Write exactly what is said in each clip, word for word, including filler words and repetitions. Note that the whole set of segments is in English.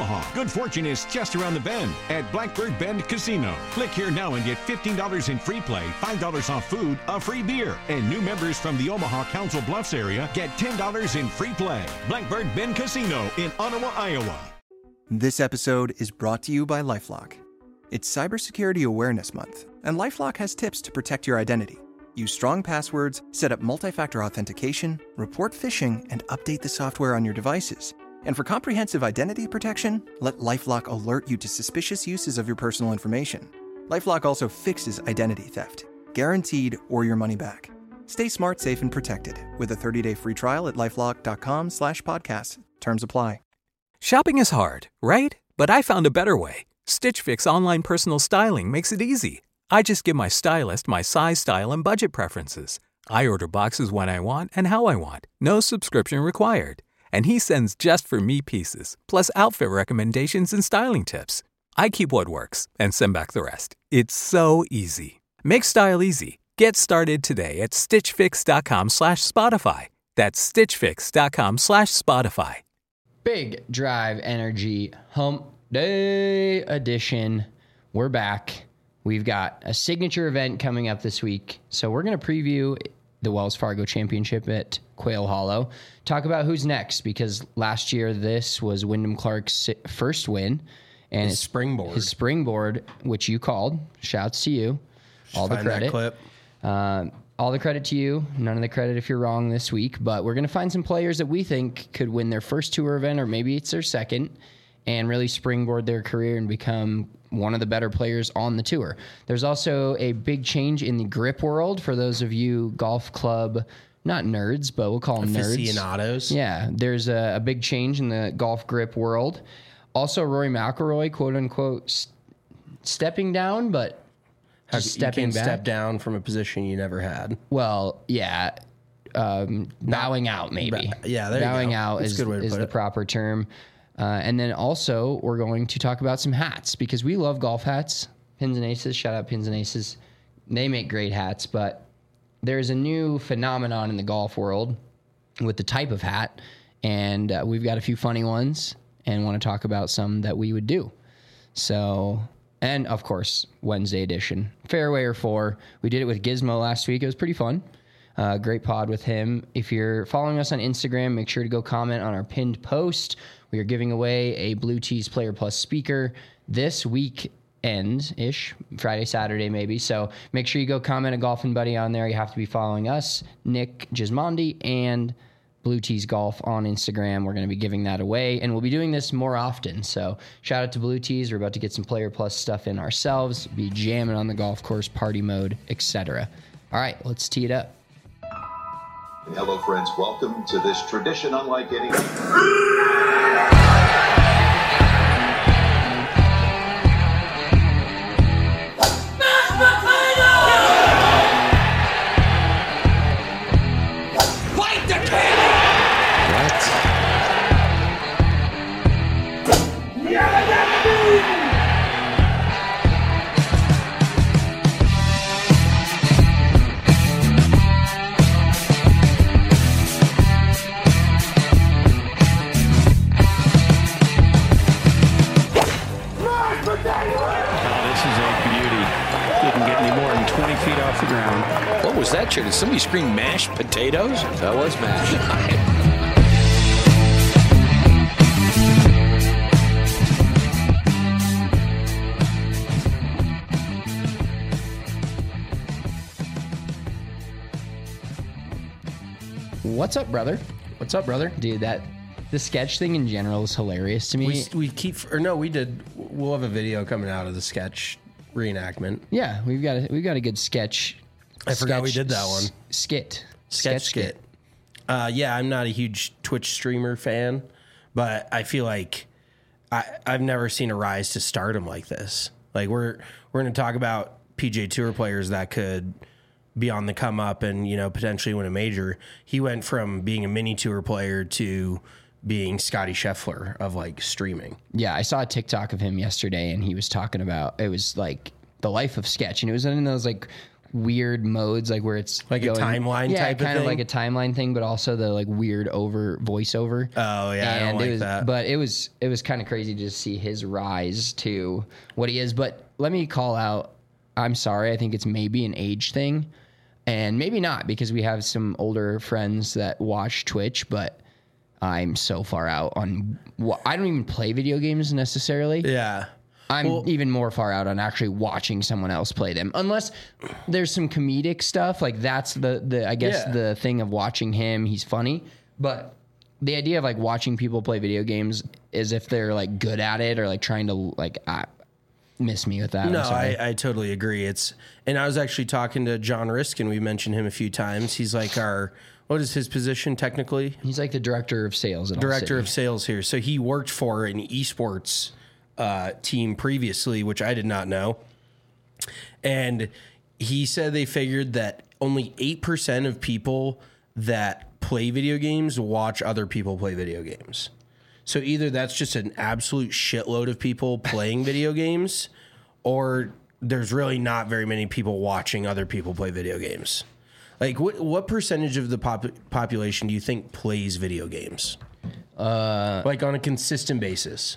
Omaha. Good fortune is just around the bend at Blackbird Bend Casino. Click here now and get fifteen dollars in free play, five dollars off food, a free beer. And new members from the Omaha Council Bluffs area get ten dollars in free play. Blackbird Bend Casino in Ottawa, Iowa. This episode is brought to you by LifeLock. It's Cybersecurity Awareness Month, and LifeLock has tips to protect your identity. Use strong passwords, set up multi-factor authentication, report phishing, and update the software on your devices. And for comprehensive identity protection, let LifeLock alert you to suspicious uses of your personal information. LifeLock also fixes identity theft, guaranteed or your money back. Stay smart, safe, and protected with a thirty-day free trial at LifeLock.com slash podcast. Terms apply. Shopping is hard, right? But I found a better way. Stitch Fix online personal styling makes it easy. I just give my stylist my size, style, and budget preferences. I order boxes when I want and how I want. No subscription required. And he sends just for me pieces, plus outfit recommendations and styling tips. I keep what works and send back the rest. It's so easy. Make style easy. Get started today at stitchfix.com slash Spotify. That's stitchfix.com slash Spotify. Big Drive Energy Hump Day edition. We're back. We've got a signature event coming up this week. So we're going to preview the Wells Fargo Championship at Quail Hollow. Talk about who's next, because last year this was Wyndham Clark's first win. And his springboard. His springboard, which you called. Shouts to you. All the credit. That clip. Um, all the credit to you. None of the credit if you're wrong this week. But we're going to find some players that we think could win their first tour event, or maybe it's their second, and really springboard their career and become one of the better players on the tour. There's also a big change in the grip world for those of you golf club, not nerds, but we'll call them nerds. Aficionados. Yeah, there's a, a big change in the golf grip world. Also, Rory McIlroy, quote unquote, st- stepping down, but How, just you stepping can't back. step down from a position you never had. Well, yeah, um, bowing out maybe. Yeah, there you bowing go. out That's is, a good way to is put the it. proper term. Uh, and then also we're going to talk about some hats, because we love golf hats. Pins and Aces, shout out Pins and Aces. They make great hats, but there's a new phenomenon in the golf world with the type of hat, and uh, we've got a few funny ones and want to talk about some that we would do. So, and of course, Wednesday edition, fairway or four. We did it with Gizmo last week. It was pretty fun. Uh, great pod with him. If you're following us on Instagram, make sure to go comment on our pinned post. We are giving away a Blue Tees Player Plus speaker this weekend-ish, Friday, Saturday maybe. So make sure you go comment a Golfing Buddy on there. You have to be following us, Nick Gismondi, and Blue Tees Golf on Instagram. We're going to be giving that away, and we'll be doing this more often. So shout out to Blue Tees. We're about to get some Player Plus stuff in ourselves, be jamming on the golf course, party mode, et cetera. All right, let's tee it up. Hello, friends. Welcome to this tradition unlike any. Fight the king! What was that, Chair? Did somebody scream mashed potatoes? That was mashed. What's up, brother? What's up, brother? Dude, that the sketch thing in general is hilarious to me. We, we keep, or no, we did, we'll have a video coming out of the sketch reenactment. Yeah, we've got a, we've got a good sketch. I forgot we sketch did that one. s- Skit. Sketch skit. Uh, yeah, I'm not a huge Twitch streamer fan, but I feel like I, I've never seen a rise to stardom like this. Like we're we're going to talk about P G A Tour players that could be on the come up and, you know, potentially win a major. He went from being a mini tour player to being Scotty Scheffler of like streaming. Yeah, I saw a TikTok of him yesterday, and he was talking about, it was like the life of sketch, and it was in those like weird modes, like where it's Like a timeline yeah, type of kind of thing? like a timeline thing, but also the like weird over voiceover. Oh, yeah, I don't and like it was, that. But it was it was kind of crazy to see his rise to what he is. But let me call out. I'm sorry. I think it's maybe an age thing, and maybe not, because we have some older friends that watch Twitch, but I'm so far out on. I don't even play video games necessarily. Yeah. I'm Well- even more far out on actually watching someone else play them, unless there's some comedic stuff. Like that's the the I guess Yeah. the thing of watching him. He's funny, but the idea of like watching people play video games is if they're like good at it or like trying to like uh, miss me with that. I'm No, sorry. I, I totally agree. It's and I was actually talking to John Riskin. We mentioned him a few times. He's like our what is his position technically? He's like the director of sales. At Director All of sales here. So he worked for an esports uh, team previously, which I did not know. And he said they figured that only eight percent of people that play video games watch other people play video games. So either that's just an absolute shitload of people playing video games, or there's really not very many people watching other people play video games. Like, what what percentage of the pop- population do you think plays video games? Uh, like on a consistent basis?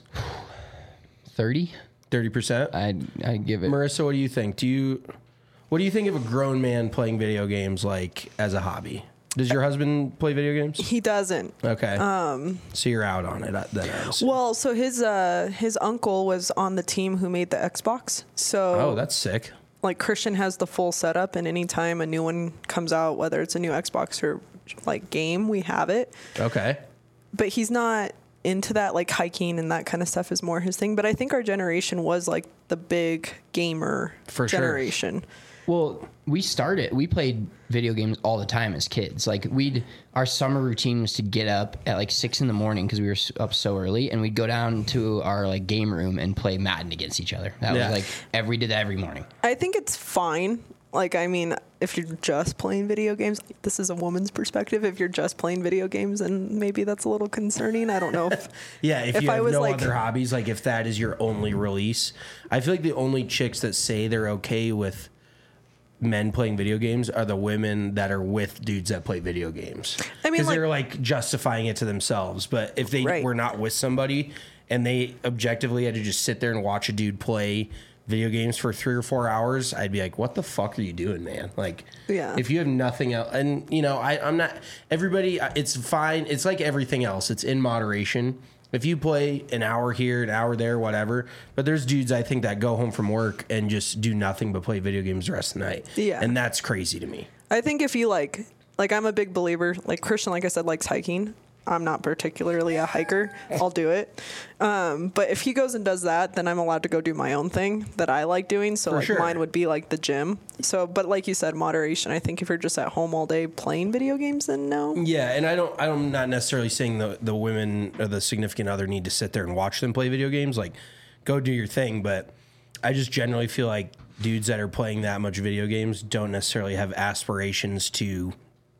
thirty. thirty percent? I I give it. Marissa, what do you think? Do you what do you think of a grown man playing video games like as a hobby? Does your husband play video games? He doesn't. Okay. Um, so you're out on it. uh, Then I was. Well, so his uh, his uncle was on the team who made the Xbox. So Oh, that's sick. like Christian has the full setup, and anytime a new one comes out, whether it's a new Xbox or like game, we have it. Okay. But he's not into that, like hiking and that kind of stuff is more his thing. But I think our generation was like the big gamer For sure. generation. Well, we started, we played video games all the time as kids. Like we'd, our summer routine was to get up at like six in the morning because we were s- up so early, and we'd go down to our like game room and play Madden against each other. That Yeah. was like, every, did that every morning. I think it's fine. Like, I mean, if you're just playing video games, this is a woman's perspective. If you're just playing video games, and maybe that's a little concerning. I don't know. If, Yeah, if, If you I have was no like- other hobbies, like if that is your only release, I feel like the only chicks that say they're okay with men playing video games are the women that are with dudes that play video games. I mean, because like- they're like justifying it to themselves. But if they Right. were not with somebody and they objectively had to just sit there and watch a dude play video games for three or four hours, I'd be like, what the fuck are you doing, man? Like, Yeah. if you have nothing else, and you know, I, I'm not, everybody, it's fine. It's like everything else. It's in moderation. If you play an hour here, an hour there, whatever, but there's dudes I think that go home from work and just do nothing but play video games the rest of the night. Yeah. And that's crazy to me. I think if you like, like I'm a big believer, like Christian, like I said, likes hiking. I'm not particularly a hiker. I'll do it. Um, but if he goes and does that, then I'm allowed to go do my own thing that I like doing. So For like sure. mine would be like the gym. So, but like you said, moderation. I think if you're just at home all day playing video games, then no. Yeah, and I don't. I'm not necessarily saying the the women or the significant other need to sit there and watch them play video games. Like, go do your thing. But I just generally feel like dudes that are playing that much video games don't necessarily have aspirations to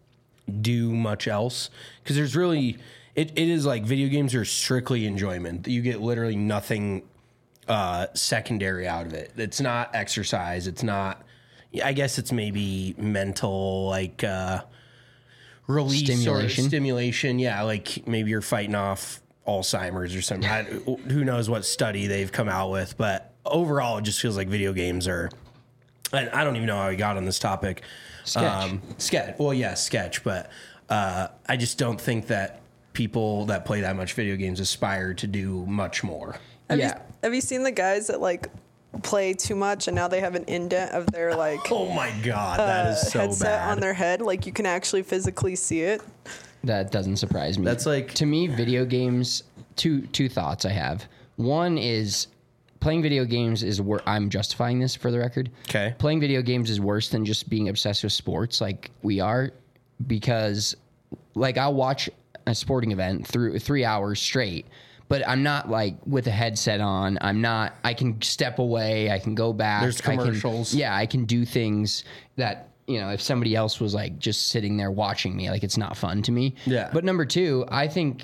do much else, because there's really it, it is like video games are strictly enjoyment. You get literally nothing uh, secondary out of it. It's not exercise. It's not. I guess it's maybe mental like. Uh, release Stimulation. or stimulation. Yeah, like maybe you're fighting off Alzheimer's or something. I, who knows what study they've come out with, but overall, it just feels like video games are. And I don't even know how we got on this topic. Sketch. sketch. Well, yeah, sketch, but uh, I just don't think that people that play that much video games aspire to do much more. Have Yeah. You, have you seen the guys that like play too much and now they have an indent of their like Oh my god, that is so headset bad. on their head? Like you can actually physically see it. That doesn't surprise me. That's like- to me, video games. Two two thoughts I have. One is playing video games is where I'm justifying this for the record. Okay. Playing video games is worse than just being obsessed with sports like we are, because like I'll watch a sporting event through three hours straight, but I'm not like with a headset on. I'm not. I can step away. I can go back. There's I can- commercials. yeah, I can do things that, you know, if somebody else was like just sitting there watching me, like it's not fun to me. Yeah. But number two, I think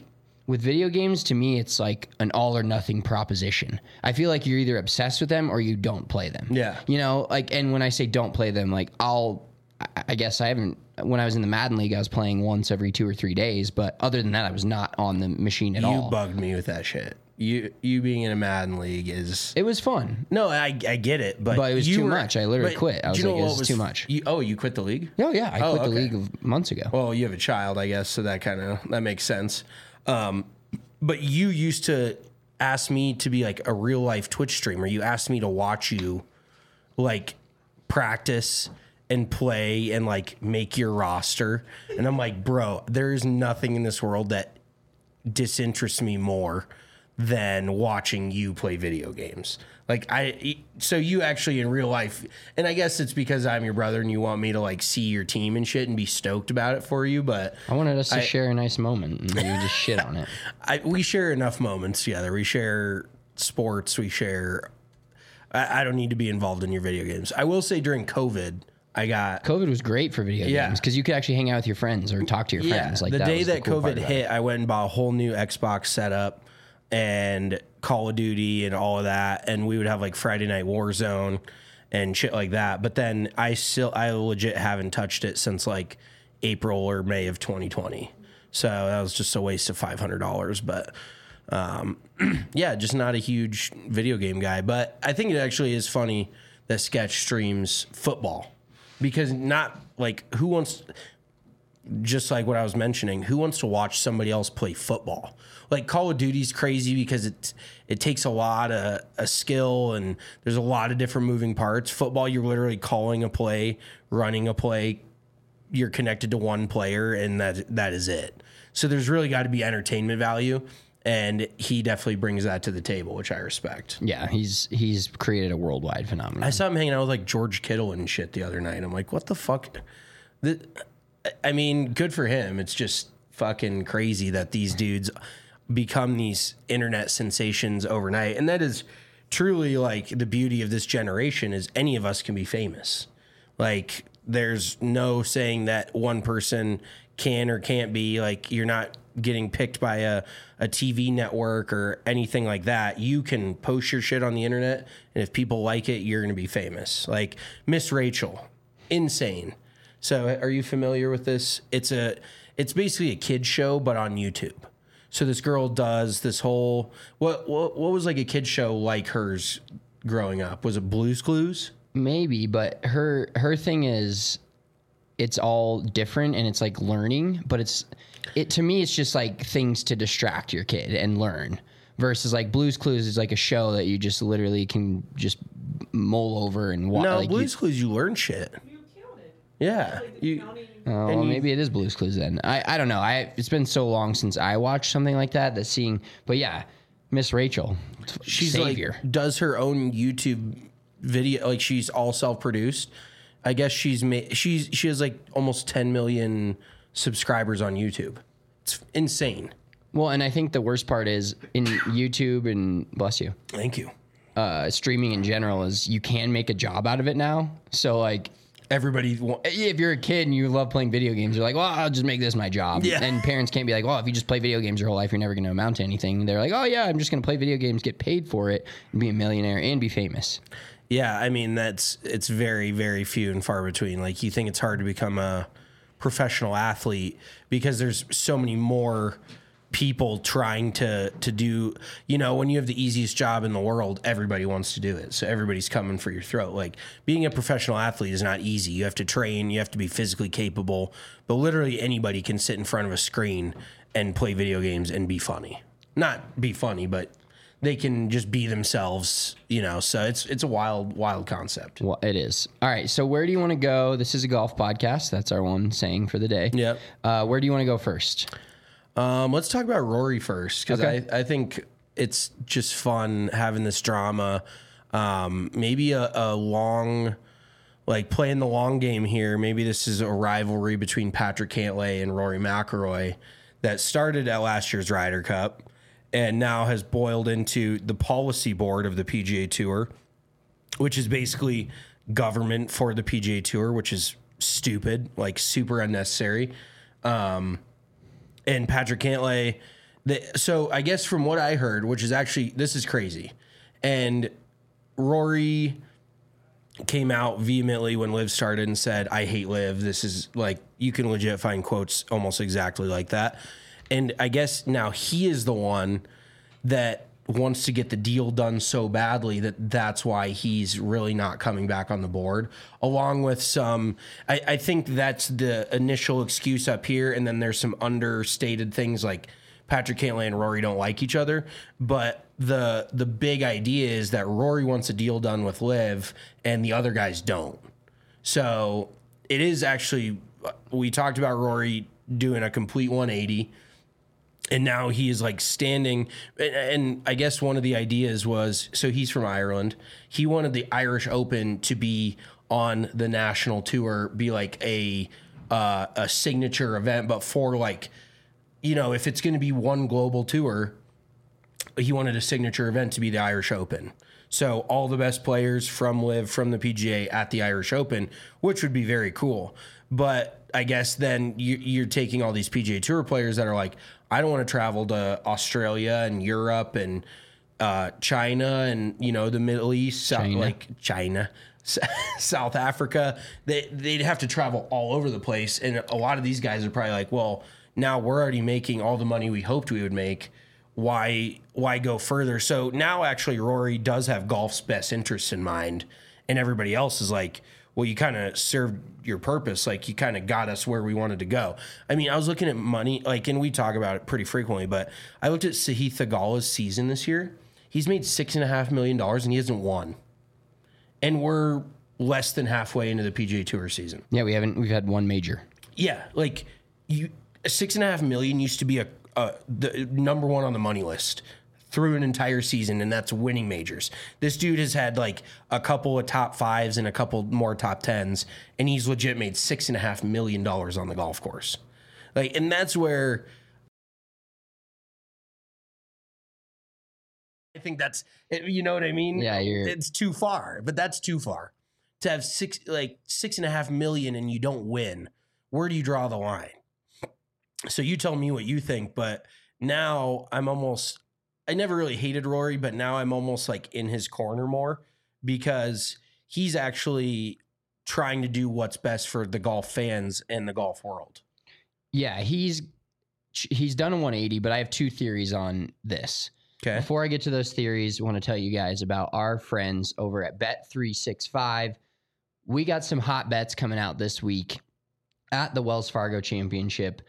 with video games, to me, it's like an all or nothing proposition. I feel like you're either obsessed with them or you don't play them. Yeah. You know, like, and when I say don't play them, like, I'll, I- I guess I haven't, when I was in the Madden League, I was playing once every two or three days. But other than that, I was not on the machine at You all. bugged me with that shit. You you being in a Madden league is It was fun. no, I, I get it, but But it was you too were- much. I literally but quit. I do was you know like, what this is was too f- much. You, oh, you quit the league? Oh, yeah. I Oh, quit the okay. league of months ago. Well, you have a child, I guess, so that kind of that makes sense. Um, but you used to ask me to be like a real life Twitch streamer. You asked me to watch you like practice and play and like make your roster. And I'm like, bro, there's nothing in this world that disinterests me more than watching you play video games. Like I, so you actually in real life, and I guess it's because I'm your brother and you want me to like see your team and shit and be stoked about it for you. But I wanted us to I- share a nice moment and you just shit on it. I, we share enough moments together. We share sports. We share. I, I don't need to be involved in your video games. I will say during COVID, I got COVID was great for video Yeah. games because you could actually hang out with your friends or talk to your friends. Like the that day was that the cool part COVID about it. hit, I went and bought a whole new Xbox setup and Call of Duty and all of that, and we would have like Friday Night Warzone and shit like that. But then I still, I legit haven't touched it since like April or May of twenty twenty. So that was just a waste of five hundred dollars. But um, yeah, just not a huge video game guy. But I think it actually is funny that Sketch streams football because not like who wants. Just like what I was mentioning, who wants to watch somebody else play football? Like Call of Duty's crazy because it it takes a lot of a skill and there's a lot of different moving parts. Football, you're literally calling a play, running a play. You're connected to one player, and that that is it. So there's really got to be entertainment value, and he definitely brings that to the table, which I respect. Yeah, he's he's created a worldwide phenomenon. I saw him hanging out with like George Kittle and shit the other night. I'm like, what the fuck? The, I mean, good for him. It's just fucking crazy that these dudes become these internet sensations overnight. And that is truly like the beauty of this generation is any of us can be famous. Like there's no saying that one person can or can't be. Like you're not getting picked by a, a T V network or anything like that. You can post your shit on the internet, and if people like it, you're going to be famous. Like Miss Rachel, insane. So are you familiar with this? It's a it's basically a kid show but on YouTube. So this girl does this whole what what what was like a kid show like hers growing up? Was it Blue's Clues? Maybe, but her her thing is it's all different and it's like learning, but it's it to me it's just like things to distract your kid and learn. Versus like Blue's Clues is like a show that you just literally can just mull over and watch. No, like Blue's you, Clues you learn shit. Yeah. You, Oh, well, maybe it is Blue's Clues then. I, I don't know. I it's been so long since I watched something like that that seeing. But yeah, Miss Rachel, she's savior. like does her own YouTube video. Like she's all self produced. I guess she's made. She's she has like almost ten million subscribers on YouTube. It's insane. Well, and I think the worst part is in YouTube and bless you, Thank you. uh, streaming in general is you can make a job out of it now. So like. Everybody. wa- If you're a kid and you love playing video games, you're like, well, I'll just make this my job. Yeah. And parents can't be like, well, if you just play video games your whole life, you're never going to amount to anything. They're like, oh, yeah, I'm just going to play video games, get paid for it, and be a millionaire and be famous. Yeah, I mean that's it's very very few and far between. Like you think it's hard to become a professional athlete because there's so many more people trying to to do, you know, when you have the easiest job in the world, everybody wants to do it. So everybody's coming for your throat. Like being a professional athlete is not easy. You have to train, you have to be physically capable, but literally anybody can sit in front of a screen and play video games and be funny. Not be funny, but they can just be themselves, you know. So it's it's a wild wild concept. Well, it is. All right. So where do you want to go? This is a golf podcast. That's our one saying for the day. Yep. Uh, where do you want to go first? Um, let's talk about Rory first because Okay. I, I think it's just fun having this drama. Um, maybe a, a long, like playing the long game here. Maybe this is a rivalry between Patrick Cantlay and Rory McIlroy that started at last year's Ryder Cup and now has boiled into the policy board of the P G A Tour, which is basically government for the P G A Tour, which is stupid, like super unnecessary. Um, And Patrick Cantlay, The, so I guess from what I heard, which is actually, this is crazy. And Rory came out vehemently when Liv started and said, I hate Liv. This is like, you can legit find quotes almost exactly like that. And I guess now he is the one that wants to get the deal done so badly that that's why he's really not coming back on the board, along with some, I, I think that's the initial excuse up here. And then there's some understated things like Patrick Cantlay and Rory don't like each other. But the the big idea is that Rory wants a deal done with Liv and the other guys don't. So it is actually, we talked about Rory doing a complete one eighty. And now he is like standing, and I guess one of the ideas was, so he's from Ireland. He wanted the Irish Open to be on the national tour, be like a uh, a signature event, but for like, you know, if it's going to be one global tour, he wanted a signature event to be the Irish Open. So all the best players from Liv, from the P G A at the Irish Open, which would be very cool. But I guess then you, you're taking all these P G A Tour players that are like, I don't want to travel to Australia and Europe and uh, China and, you know, the Middle East, China. South, like China, South Africa. They, they'd have to travel all over the place. And a lot of these guys are probably like, well, now we're already making all the money we hoped we would make. Why, why go further? So now actually Rory does have golf's best interests in mind. And everybody else is like, well, you kind of served your purpose. Like, you kind of got us where we wanted to go. I mean, I was looking at money, like, and we talk about it pretty frequently, but I looked at Sahith Theegala's season this year. He's made six and a half million dollars and he hasn't won. And we're less than halfway into the P G A Tour season. Yeah, we haven't, we've had one major. Yeah. Like, you, six and a half million used to be a, a the number one on the money list through an entire season, and that's winning majors. This dude has had like a couple of top fives and a couple more top tens, and he's legit made six and a half million dollars on the golf course. Like, and that's where I think that's, you know what I mean? Yeah, you're, it's too far, but that's too far to have six, like six and a half million and you don't win. Where do you draw the line? So you tell me what you think, but now I'm almost, I never really hated Rory, but now I'm almost like in his corner more because he's actually trying to do what's best for the golf fans and the golf world. Yeah, he's he's done a one eighty, but I have two theories on this. Okay. Before I get to those theories, I want to tell you guys about our friends over at Bet three sixty-five. We got some hot bets coming out this week at the Wells Fargo Championship.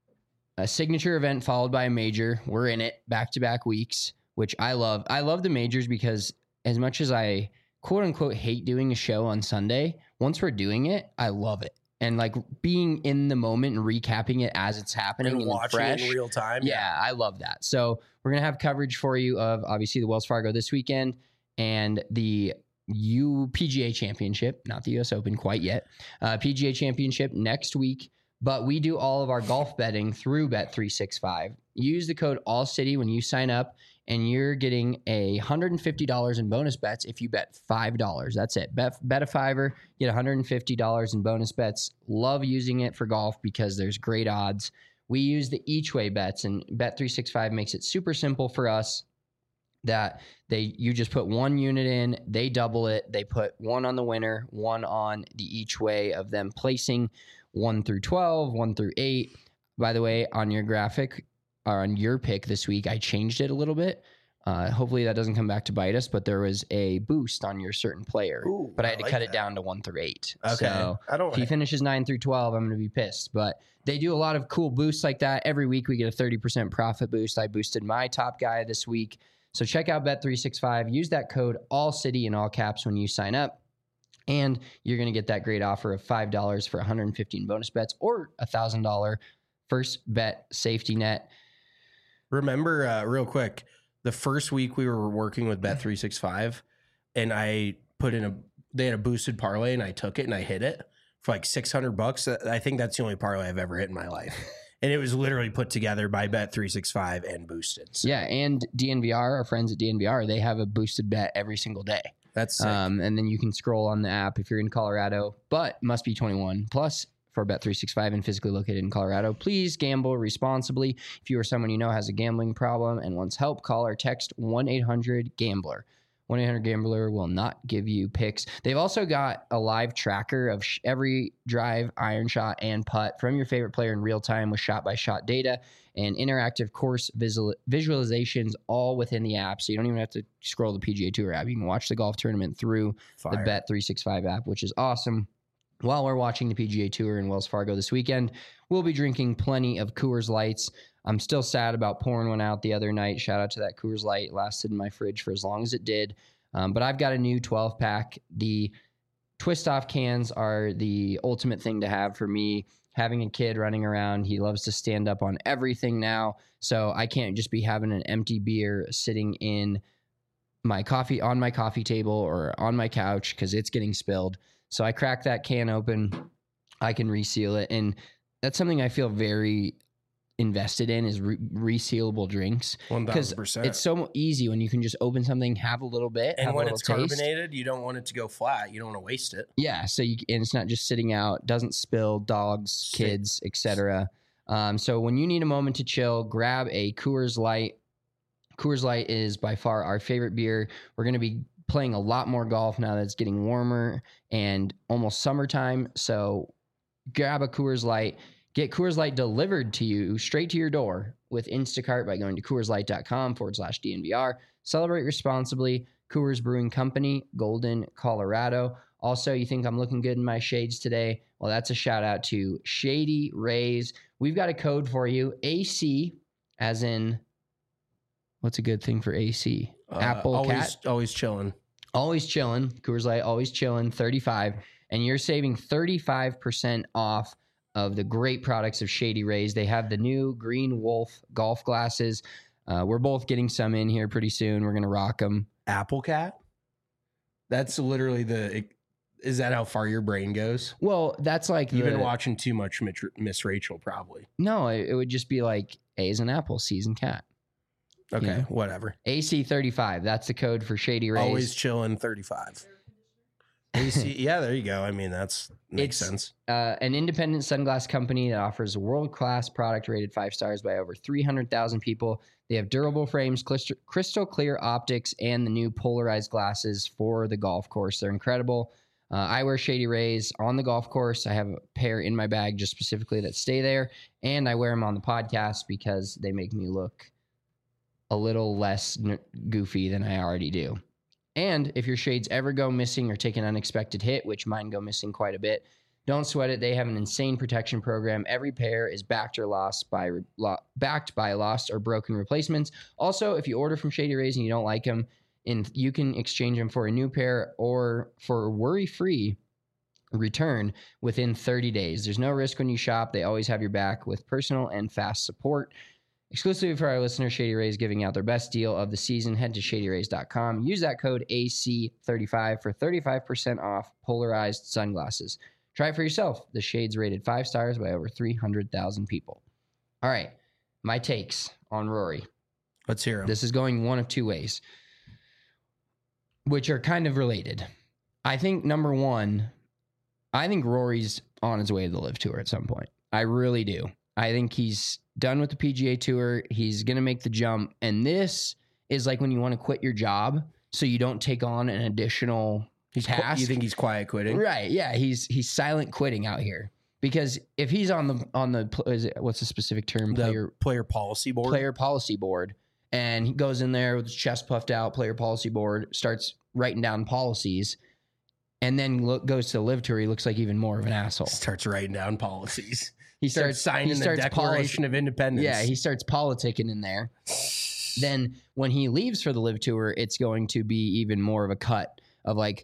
A signature event followed by a major. We're in it back-to-back weeks, which I love. I love the majors because as much as I quote-unquote hate doing a show on Sunday, once we're doing it, I love it. And like being in the moment and recapping it as it's happening and and watching fresh, it in real time. Yeah, I love that. So we're going to have coverage for you of obviously the Wells Fargo this weekend and the U P G A Championship, not the U S Open quite yet, uh, P G A Championship next week. But we do all of our golf betting through Bet three sixty-five. Use the code ALLCITY when you sign up, and you're getting a one hundred fifty dollars in bonus bets if you bet five dollars. That's it. Bet, bet a fiver, get one hundred fifty dollars in bonus bets. Love using it for golf because there's great odds. We use the each way bets, and Bet three sixty-five makes it super simple for us that they you just put one unit in, they double it, they put one on the winner, one on the each way of them placing one through twelve, one through eight. By the way, on your graphic or on your pick this week, I changed it a little bit. Uh, hopefully that doesn't come back to bite us, but there was a boost on your certain player. Ooh, but I had I to like cut that. it down to one through eight. Okay. So I don't if he finishes nine through twelve, I'm going to be pissed. But they do a lot of cool boosts like that. Every week we get a thirty percent profit boost. I boosted my top guy this week. So check out Bet three sixty-five. Use that code ALLCITY in all caps when you sign up. And you're going to get that great offer of five dollars for one hundred fifteen bonus bets or a one thousand dollars first bet safety net. Remember, uh, real quick, the first week we were working with Bet three sixty-five, and I put in a, they had a boosted parlay, and I took it and I hit it for like six hundred bucks. I think that's the only parlay I've ever hit in my life. And it was literally put together by Bet three sixty-five and boosted. So. Yeah, and D N V R, our friends at D N V R, they have a boosted bet every single day. That's sick. Um, and then you can scroll on the app if you're in Colorado, but must be twenty-one plus for Bet three sixty-five and physically located in Colorado. Please gamble responsibly. If you or someone you know has a gambling problem and wants help, call or text one eight hundred gambler. one eight hundred gambler will not give you picks. They've also got a live tracker of sh- every drive, iron shot, and putt from your favorite player in real time with shot-by-shot data and interactive course visual- visualizations all within the app. So you don't even have to scroll the P G A Tour app. You can watch the golf tournament through Fire. the Bet three sixty-five app, which is awesome. While we're watching the P G A Tour in Wells Fargo this weekend, we'll be drinking plenty of Coors Lights. I'm still sad about pouring one out the other night. Shout out to that Coors Light. It lasted in my fridge for as long as it did. Um, but I've got a new twelve pack. The twist off cans are the ultimate thing to have for me. Having a kid running around, he loves to stand up on everything now. So I can't just be having an empty beer sitting in my coffee on my coffee table or on my couch because it's getting spilled. So I crack that can open. I can reseal it. And that's something I feel very invested in is re- resealable drinks. one thousand percent. It's so easy when you can just open something, have a little bit, and have when a it's taste. carbonated, you don't want it to go flat. You don't want to waste it. Yeah, so you and it's not just sitting out, doesn't spill, dogs, Sick. kids, et cetera. Um, so when you need a moment to chill, grab a Coors Light. Coors Light is by far our favorite beer. We're going to be playing a lot more golf now that it's getting warmer and almost summertime. So grab a Coors Light. Get Coors Light delivered to you straight to your door with Instacart by going to CoorsLight.com forward slash DNVR. Celebrate responsibly. Coors Brewing Company, Golden, Colorado. Also, you think I'm looking good in my shades today? Well, that's a shout out to Shady Rays. We've got a code for you. A C, as in, what's a good thing for A C? Uh, Apple always, Cat. Always chilling. Always chilling. Coors Light, always chilling. thirty-five. And you're saving thirty-five percent off of the great products of Shady Rays. They have the new Green Wolf golf glasses. Uh, we're both getting some in here pretty soon. We're going to rock them. Apple Cat? That's literally the... Is that how far your brain goes? Well, that's like... You've the, been watching too much Miss Rachel, probably. No, it, it would just be like A is an apple, C is an cat. Okay, You know? whatever. A C thirty-five. That's the code for Shady Rays. Always chilling thirty-five. A C, yeah, there you go. I mean, that's makes It's, sense. Uh, an independent sunglass company that offers a world-class product rated five stars by over three hundred thousand people. They have durable frames, crystal, crystal clear optics, and the new polarized glasses for the golf course. They're incredible. Uh, I wear Shady Rays on the golf course. I have a pair in my bag just specifically that stay there, and I wear them on the podcast because they make me look a little less n- goofy than I already do. And if your shades ever go missing or take an unexpected hit, which mine go missing quite a bit, don't sweat it. They have an insane protection program. Every pair is backed or lost by lo, backed by lost or broken replacements. Also, if you order from Shady Rays and you don't like them, and you can exchange them for a new pair or for worry-free return within thirty days. There's no risk when you shop. They always have your back with personal and fast support. Exclusively for our listeners, Shady Rays giving out their best deal of the season. Head to shady rays dot com. Use that code A C thirty-five for thirty-five percent off polarized sunglasses. Try it for yourself. The Shades rated five stars by over three hundred thousand people. All right, my takes on Rory. Let's hear 'em. This is going one of two ways, which are kind of related. I think, number one, I think Rory's on his way to the Live Tour at some point. I really do. I think he's done with the P G A Tour. He's going to make the jump. And this is like when you want to quit your job so you don't take on an additional He's qu- task. you think he's quiet quitting? Right. Yeah. He's he's silent quitting out here. Because if he's on the, on the is it, what's the specific term? The Player, player policy board. player policy board. And he goes in there with his chest puffed out, player policy board, starts writing down policies, and then look, goes to the Live Tour. He looks like even more of an asshole. Starts writing down policies. He starts, starts signing he starts the Declaration policy- of Independence. Yeah, he starts politicking in there. Then when he leaves for the Live Tour, it's going to be even more of a cut of like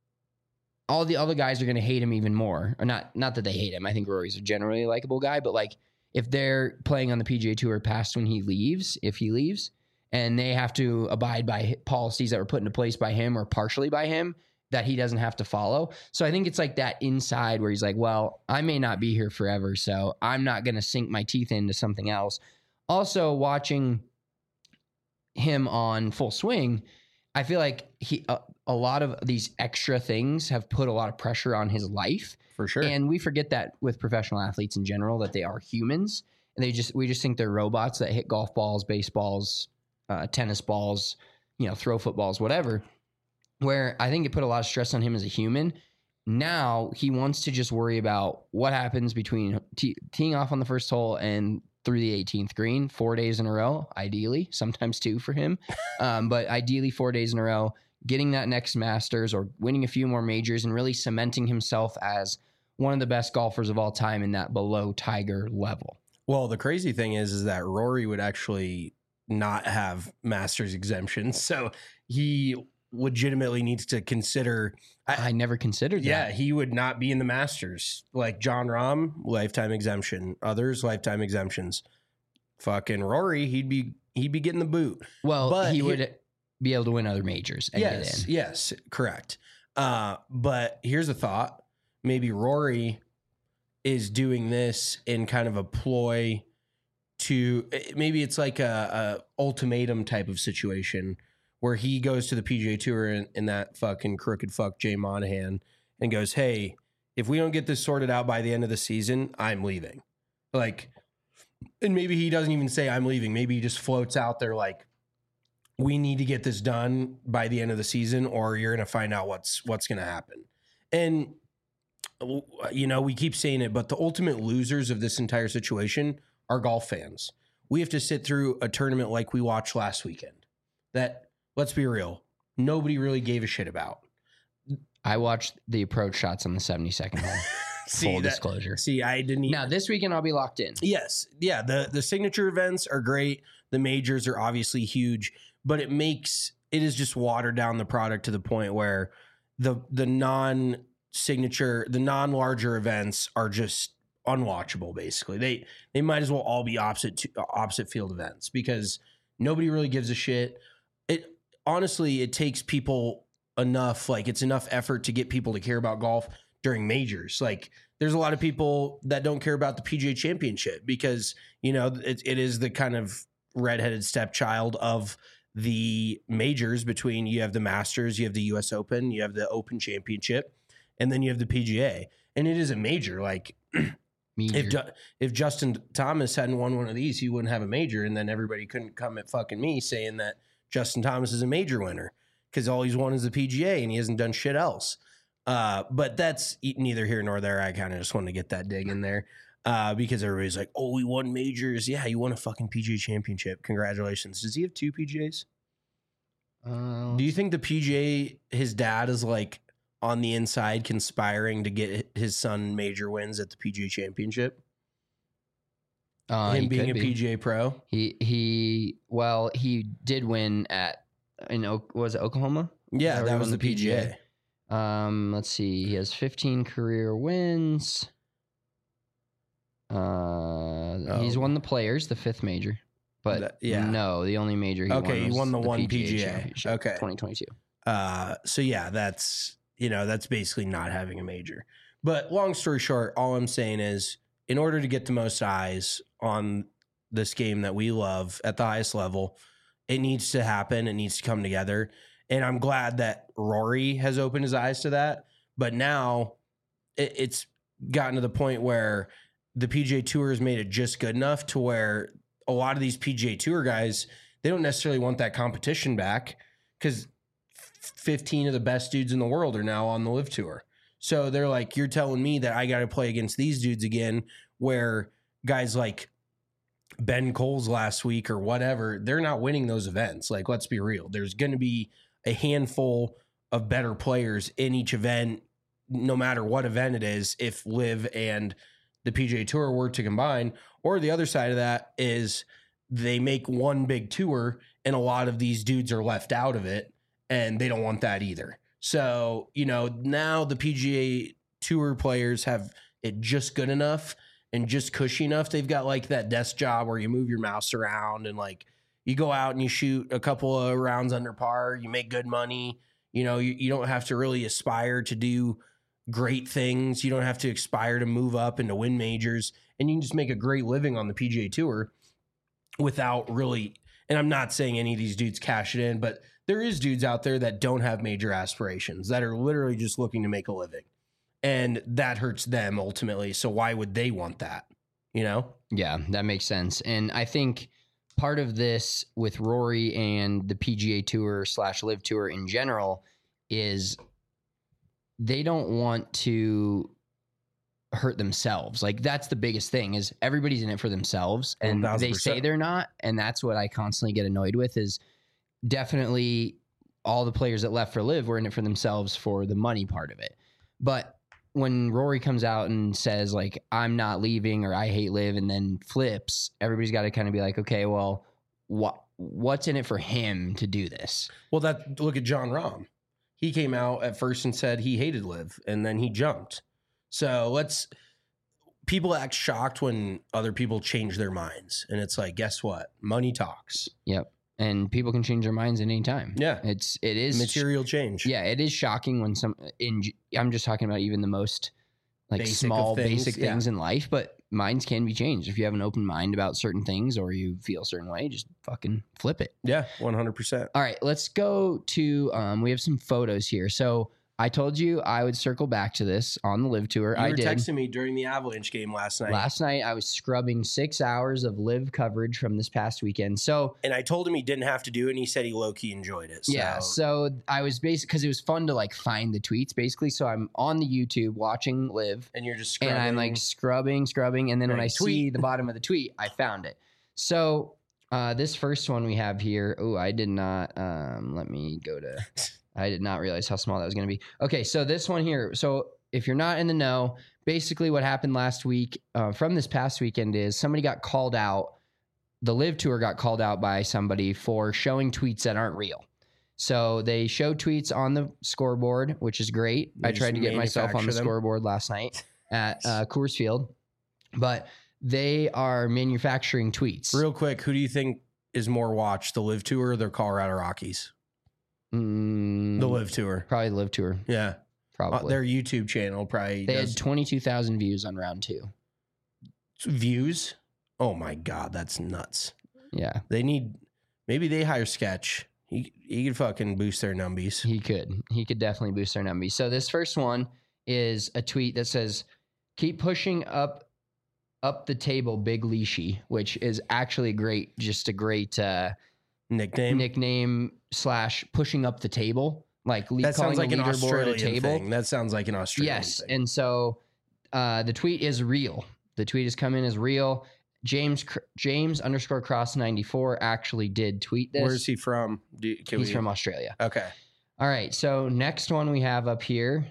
all the other guys are going to hate him even more. Or not, not that they hate him. I think Rory's a generally likable guy, but like if they're playing on the P G A Tour past when he leaves, if he leaves, and they have to abide by policies that were put into place by him or partially by him that he doesn't have to follow. So I think it's like that inside where he's like, well, I may not be here forever, so I'm not going to sink my teeth into something else. Also, watching him on Full Swing, I feel like he a, a lot of these extra things have put a lot of pressure on his life. For sure. And we forget that with professional athletes in general, that they are humans. And they just we just think they're robots that hit golf balls, baseballs, uh, tennis balls, you know, throw footballs, whatever. Where I think it put a lot of stress on him as a human. Now he wants to just worry about what happens between te- teeing off on the first hole and through the eighteenth green, four days in a row, ideally, sometimes two for him. Um, but ideally four days in a row, getting that next Masters or winning a few more majors and really cementing himself as one of the best golfers of all time in that below Tiger level. Well, the crazy thing is, is that Rory would actually not have Masters exemptions. So he legitimately needs to consider. I, I never considered yeah, that. he would not be in the Masters. Like John Rahm, lifetime exemption. Others, lifetime exemptions. Fucking Rory, he'd be he'd be getting the boot. Well, but he he, would be able to win other majors and yes, get in. Yes, correct. Uh, but here's a thought. Maybe Rory is doing this in kind of a ploy to, maybe it's like a, a ultimatum type of situation where he goes to the P G A Tour in, in that fucking crooked fuck Jay Monahan and goes, hey, if we don't get this sorted out by the end of the season, I'm leaving. Like, and maybe he doesn't even say I'm leaving. Maybe he just floats out there like, we need to get this done by the end of the season or you're going to find out what's what's going to happen. And, you know, we keep saying it, but the ultimate losers of this entire situation are golf fans. We have to sit through a tournament like we watched last weekend that, let's be real, nobody really gave a shit about. I watched the approach shots on the seventy-second hole. see, Full that, disclosure. See, I didn't even... Now, this weekend I'll be locked in. Yes. Yeah, the, the signature events are great. The majors are obviously huge, but it makes... It is just watered down the product to the point where the the non-signature, the non-larger events are just unwatchable, basically. They they might as well all be opposite to, opposite field events because nobody really gives a shit. It honestly, it takes people enough, like it's enough effort to get people to care about golf during majors. Like there's a lot of people that don't care about the P G A Championship because, you know, it, it is the kind of redheaded stepchild of the majors. Between you have the Masters, you have the U S Open, you have the Open Championship, and then you have the P G A. And it is a major. Like if Ju- if Justin Thomas hadn't won one of these, he wouldn't have a major, and then everybody couldn't come at fucking me saying that Justin Thomas is a major winner because all he's won is the P G A and he hasn't done shit else. Uh, but that's neither here nor there. I kind of just wanted to get that dig in there uh, because everybody's like, oh, he won majors. Yeah, you won a fucking P G A championship. Congratulations. Does he have two P G As? Uh, Do you think the P G A, his dad is like on the inside conspiring to get his son major wins at the P G A championship? Uh, Him being a be. P G A pro? He, he, well, he did win at, in, was it Oklahoma? Yeah, that, that was the P G A. P G A. Um, let's see. He has fifteen career wins. Uh, oh. He's won the Players, the fifth major, but that, yeah, no, the only major he okay, won he won the, the one P G A. P G A okay, twenty twenty-two. Uh, so yeah, that's you know that's basically not having a major. But long story short, all I'm saying is, in order to get the most eyes on this game that we love at the highest level, it needs to happen. It needs to come together. And I'm glad that Rory has opened his eyes to that. But now it, it's gotten to the point where the P G A Tour has made it just good enough to where a lot of these P G A Tour guys, they don't necessarily want that competition back because fifteen of the best dudes in the world are now on the Live Tour. So they're like, you're telling me that I got to play against these dudes again, where guys like Ben Coles last week or whatever, they're not winning those events. Like, let's be real. There's going to be a handful of better players in each event, no matter what event it is, if Live and the P G A Tour were to combine. Or the other side of that is they make one big tour and a lot of these dudes are left out of it, and they don't want that either. So, you know, now the P G A Tour players have it just good enough and just cushy enough. They've got like that desk job where you move your mouse around and like you go out and you shoot a couple of rounds under par, you make good money. You know, you, you don't have to really aspire to do great things. You don't have to aspire to move up and to win majors, and you can just make a great living on the P G A Tour without really, and I'm not saying any of these dudes cash it in, but there is dudes out there that don't have major aspirations, that are literally just looking to make a living. And that hurts them ultimately. So why would they want that? You know? Yeah, that makes sense. And I think part of this with Rory and the P G A Tour slash Live Tour in general is they don't want to hurt themselves. Like that's the biggest thing is everybody's in it for themselves and one thousand percent. They say they're not. And that's what I constantly get annoyed with is definitely all the players that left for Live were in it for themselves for the money part of it. But when Rory comes out and says like, I'm not leaving or I hate Live and then flips, everybody's got to kind of be like, okay, well, what, what's in it for him to do this? Well, that look at John Rahm. He came out at first and said he hated Live and then he jumped. So let's, people act shocked when other people change their minds. And it's like, guess what? Money talks. Yep. And people can change their minds at any time. Yeah. It's, it is material change. Yeah. It is shocking when some, in, I'm just talking about even the most like Basic small, of things, basic yeah. things in life, but minds can be changed. If you have an open mind about certain things or you feel a certain way, just fucking flip it. Yeah. one hundred percent. All right. Let's go to, um, we have some photos here. So I told you I would circle back to this on the Live Tour. You I were did. texting me during the Avalanche game last night. Last night, I was scrubbing six hours of Live coverage from this past weekend. So, and I told him he didn't have to do it, and he said he low-key enjoyed it. So. Yeah, so I was basically, because it was fun to like find the tweets, basically. So I'm on the YouTube watching Live. And you're just scrubbing. And I'm like scrubbing, scrubbing. And then when Right, I tweet. see the bottom of the tweet, I found it. So uh, this first one we have here, oh, I did not, um, let me go to... I did not realize how small that was going to be. Okay, so this one here. So if you're not in the know, basically what happened last week uh, from this past weekend is somebody got called out. The Live Tour got called out by somebody for showing tweets that aren't real. So they show tweets on the scoreboard, which is great. They I tried to just get myself on the manufacture them. scoreboard last night at uh, Coors Field. But they are manufacturing tweets. Real quick, who do you think is more watched, the Live Tour or the Colorado Rockies? Mm, The Live Tour. Probably the Live Tour. Yeah. Probably. Uh, their YouTube channel probably They does had twenty-two thousand views on round two. views. Oh my God, that's nuts. Yeah, They need, maybe they hire Sketch. He, he could fucking boost their numbies. he could. He could definitely boost their numbers. So this first one is a tweet that says, keep pushing up up the table, Big Leashy, which is actually great, just a great uh, Nickname? nickname slash pushing up the table. Like le- That calling sounds like the an leaderboard a Australian table. thing. That sounds like an Australian Yes. thing. And so uh, the tweet is real. The tweet has come in as real. James Cr- James underscore cross ninety-four actually did tweet this. Where is he from? Do, can He's we, from Australia. Okay. All right. So next one we have up here.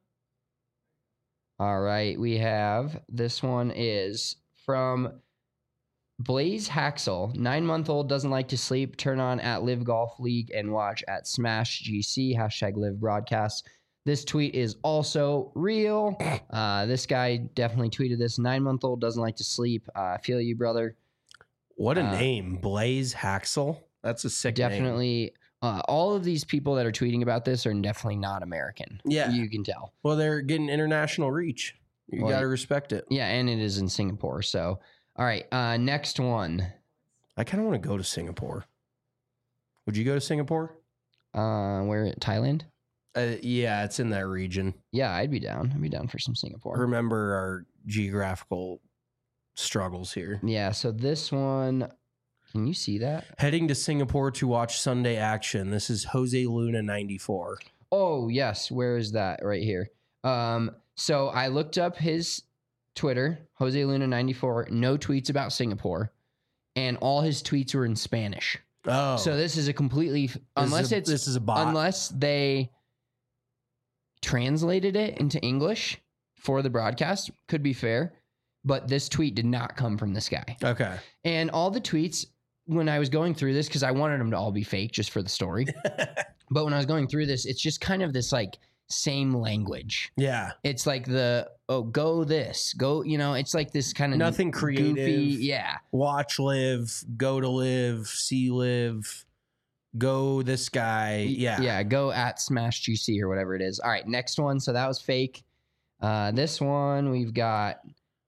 All right. We have this one is from Blaze Haxel. Nine month old doesn't like to sleep. Turn on at Live Golf League and watch at Smash G C. Hashtag Live Broadcast. This tweet is also real. Uh, this guy definitely tweeted this. Nine month old doesn't like to sleep. I uh, feel you, brother. What a Uh, name. Blaze Haxel. That's a sick name. Definitely. Uh, all of these people that are tweeting about this are definitely not American. Yeah. You can tell. Well, they're getting international reach. You Well, got to respect it. Yeah, and it is in Singapore. So, all right. Uh, next one. I kind of want to go to Singapore. Would you go to Singapore? Uh, where Thailand? Uh, yeah, it's in that region. Yeah, I'd be down. I'd be down for some Singapore. Remember our geographical struggles here. Yeah. So this one, can you see that? Heading to Singapore to watch Sunday action. This is Jose Luna ninety-four. Oh yes. Where is that? Right here. Um. So I looked up his Twitter, Jose Luna ninety-four. No tweets about Singapore, and all his tweets were in Spanish. Oh, So this is a completely unless is a- it's this is a bot. unless they translated it into English for the broadcast, could be fair, but this tweet did not come from this guy. okay. And all the tweets when I was going through this, because I wanted them to all be fake just for the story, but when I was going through this, it's just kind of this like same language. Yeah. It's like the oh go this go you know it's like this kind of Nothing creative. goofy, yeah. Watch live, go to live, see live, go this guy. Yeah. Yeah, go at Smash G C or whatever it is. All right, next one. So that was fake. Uh, this one, we've got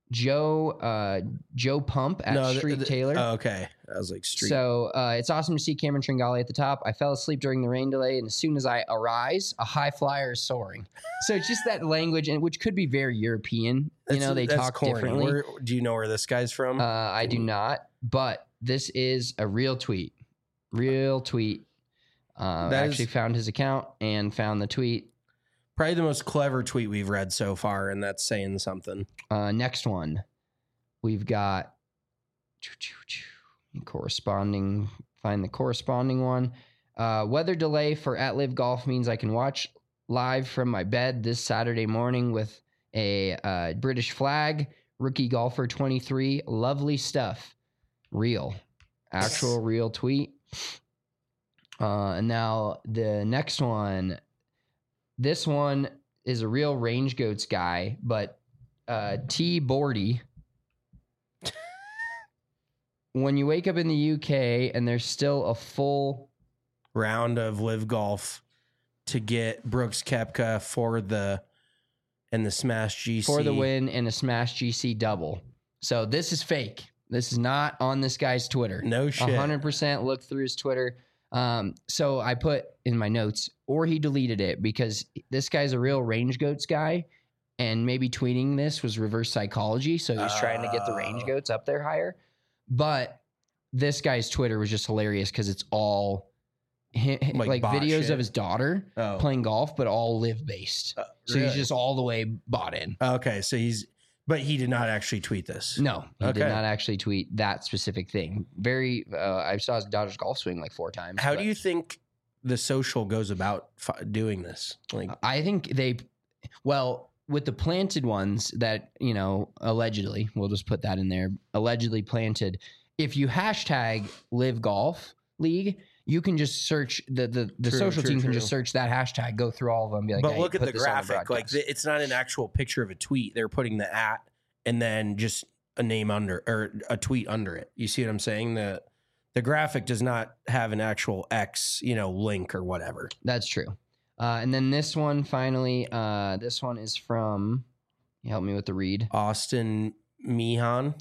Joe uh, Joe Pump at No, Street the, the, Taylor. Oh, okay. I was like Street. So uh, it's awesome to see Cameron Tringali at the top. I fell asleep during the rain delay, and as soon as I arise, a high flyer is soaring. So it's just that language, and which could be very European. You know, they that's talk corny. differently. Where, do you know where this guy's from? Uh, I do not, but this is a real tweet. Real tweet. Uh, I actually is, found his account and found the tweet. Probably the most clever tweet we've read so far, and that's saying something. Uh, next one. We've got corresponding, find the corresponding one. Uh, weather delay for At Live Golf means I can watch live from my bed this Saturday morning with a uh, British flag. Rookie golfer twenty-three. Lovely stuff. Real. Actual real tweet. Uh, and now the next one. This one is a real Range Goats guy, but uh, T. Bordy. When you wake up in the U K and there's still a full round of Live Golf to get Brooks Koepka for the and the Smash G C for the win and a Smash G C double. So this is fake. This is not on this guy's Twitter. No shit. one hundred percent look through his Twitter. Um, so I put in my notes, or he deleted it because this guy's a real Range Goats guy, and maybe tweeting this was reverse psychology. So he's uh, trying to get the Range Goats up there higher. But this guy's Twitter was just hilarious because it's all him, like, like videos shit. of his daughter oh. playing golf, but all Live based. Uh, so really? He's just all the way bought in. Okay, so he's, but he did not actually tweet this. No, he okay. did not actually tweet that specific thing. Very, uh, I saw his daughter's golf swing like four times. How do you think the social goes about f- doing this? Like, I think they, well, with the planted ones that, you know, allegedly, we'll just put that in there, allegedly planted. If you hashtag Live Golf League, you can just search the the, the true, social true, team can true. just search that hashtag, go through all of them, be like, but hey, look at the graphic. The like the, it's not an actual picture of a tweet. They're putting the at and then just a name under or a tweet under it. You see what I'm saying? The the graphic does not have an actual X, you know, link or whatever. That's true. Uh, and then this one, finally, uh, this one is from, help me with the read. Austin Meehan.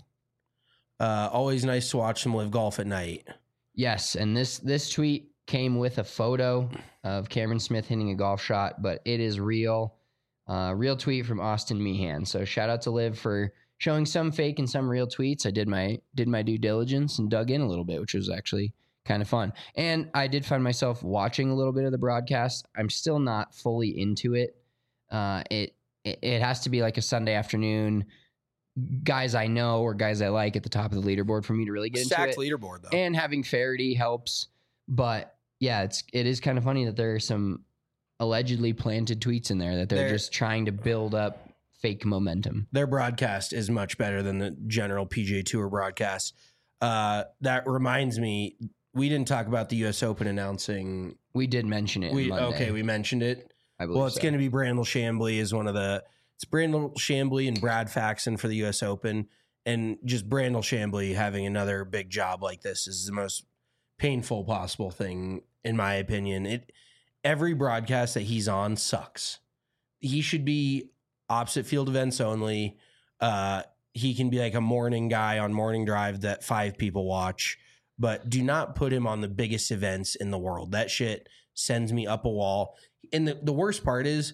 Uh, always nice to watch him Live Golf at night. Yes, and this this tweet came with a photo of Cameron Smith hitting a golf shot, but it is real. Uh, real tweet from Austin Meehan. So shout out to Liv for showing some fake and some real tweets. I did my did my due diligence and dug in a little bit, which was actually kind of fun. And I did find myself watching a little bit of the broadcast. I'm still not fully into it. Uh, it, it it has to be like a Sunday afternoon, guys I know or guys I like at the top of the leaderboard for me to really get Stacked into it. Leaderboard though, and having Faraday helps. But yeah, it's it is kind of funny that there are some allegedly planted tweets in there that they're, they're just trying to build up fake momentum. Their broadcast is much better than the general P G A Tour broadcast. Uh, that reminds me. We didn't talk about the U S Open announcing. We did mention it. We okay, we mentioned it. I believe well, it's so. going to be Brandel Chambly is one of the. It's Brandel Chambly and Brad Faxon for the U S Open, and just Brandel Chambly having another big job like this is the most painful possible thing, in my opinion. It every broadcast that he's on sucks. He should be opposite field events only. Uh, he can be like a morning guy on Morning Drive that five people watch. But do not put him on the biggest events in the world. That shit sends me up a wall. And the, the worst part is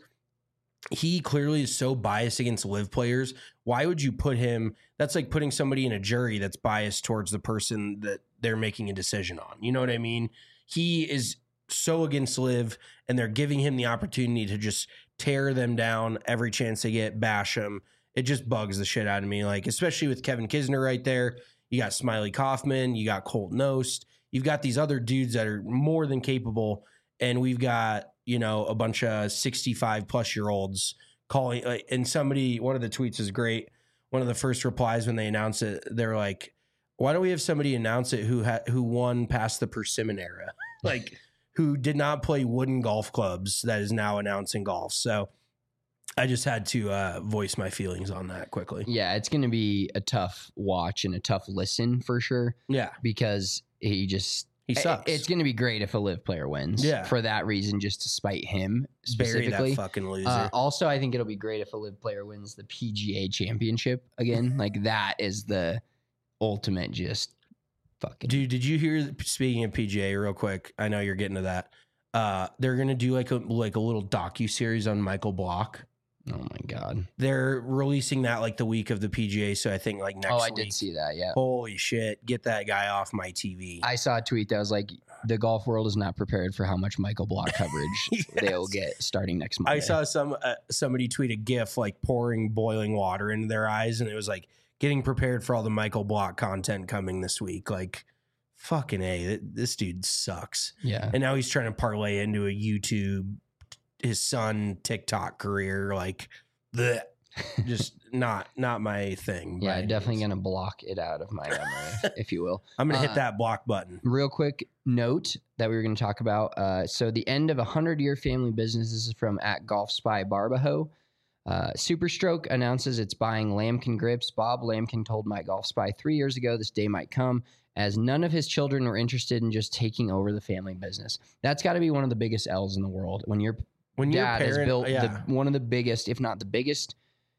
he clearly is so biased against Live players. Why would you put him? That's like putting somebody in a jury that's biased towards the person that they're making a decision on. You know what I mean? He is so against Live, and they're giving him the opportunity to just tear them down every chance they get, bash them. It just bugs the shit out of me. Like, especially with Kevin Kisner right there. You got Smiley Kaufman, you got Colt Knost, you've got these other dudes that are more than capable, and we've got, you know, a bunch of sixty-five plus year olds calling. Like, and somebody, one of the tweets is great. One of the first replies when they announced it, they're like, "Why don't we have somebody announce it who ha- who won past the Persimmon era, like who did not play wooden golf clubs that is now announcing golf?" So I just had to uh, voice my feelings on that quickly. Yeah, it's going to be a tough watch and a tough listen for sure. Yeah. Because he just, He sucks. It's going to be great if a live player wins. Yeah. For that reason, just to spite him specifically. Bury that fucking loser. Uh, also, I think it'll be great if a live player wins the P G A championship again. Like that is the ultimate just fucking. Dude, did you hear, speaking of P G A real quick, I know you're getting to that. Uh, they're going to do like a, like a little docu-series on Michael Block. Oh my God. They're releasing that like the week of the P G A. So I think like next Oh, I week. did see that. Yeah. Holy shit. Get that guy off my T V. I saw a tweet that was like, the golf world is not prepared for how much Michael Block coverage Yes. they'll get starting next Monday. I saw some uh, somebody tweet a GIF like pouring boiling water into their eyes, and it was like getting prepared for all the Michael Block content coming this week. Like, fucking A, this dude sucks. Yeah. And now he's trying to parlay into a YouTube, his son TikTok career. Like, bleh. Just not not my thing. Yeah, by any definitely means. going to block it out of my memory, if you will. I'm gonna Uh, hit that block button. Real quick note that we were going to talk about. Uh, so the end of a hundred-year family business. This is from at Golf Spy Barbaho. Uh, Superstroke announces it's buying Lamkin grips. Bob Lamkin told My Golf Spy three years ago this day might come, as none of his children were interested in just taking over the family business. That's got to be one of the biggest L's in the world when your When your dad has parent- built yeah. the, one of the biggest, if not the biggest,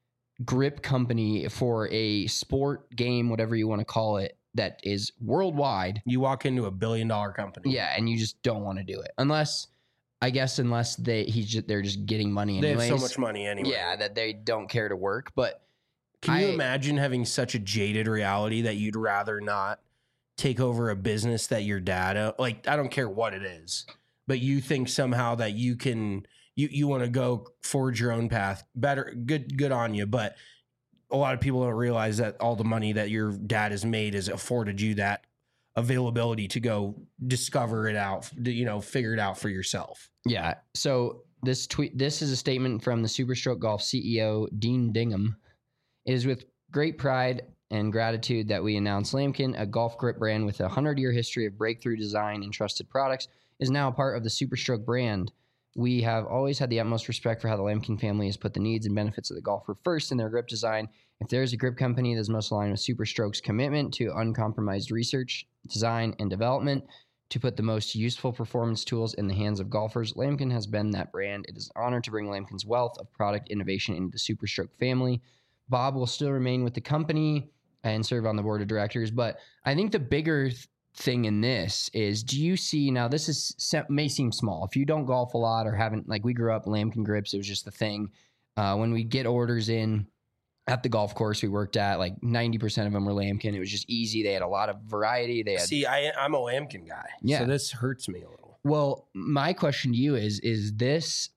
grip company for a sport game, whatever you want to call it, that is worldwide. You walk into a billion dollar company. Yeah, and you just don't want to do it unless, I guess, unless they he's just, they're just getting money They anyways. have so much money anyway. Yeah, that they don't care to work. But Can you I- imagine having such a jaded reality that you'd rather not take over a business that your dad o- like? I don't care what it is, but you think somehow that you can you you want to go forge your own path. Better, good good on you. But a lot of people don't realize that all the money that your dad has made has afforded you that availability to go discover it out, you know, figure it out for yourself. Yeah. So this tweet, this is a statement from the Superstroke Golf C E O, Dean Dingham. It is with great pride and gratitude that we announce Lamkin, a golf grip brand with a hundred-year history of breakthrough design and trusted products, is now a part of the Superstroke brand. We have always had the utmost respect for how the Lamkin family has put the needs and benefits of the golfer first in their grip design. If there is a grip company that is most aligned with Superstroke's commitment to uncompromised research, design, and development to put the most useful performance tools in the hands of golfers, Lamkin has been that brand. It is an honor to bring Lamkin's wealth of product innovation into the Superstroke family. Bob will still remain with the company and serve on the board of directors, but I think the bigger th- thing in this is, do you see now, this is may seem small if you don't golf a lot or haven't, like we grew up Lamkin grips, it was just the thing. Uh, when we get orders in at the golf course we worked at, like ninety percent of them were Lamkin. It was just easy. They had a lot of variety. They had, See, I, I'm a Lamkin guy, Yeah. so this hurts me a little. well, my question to you is, is this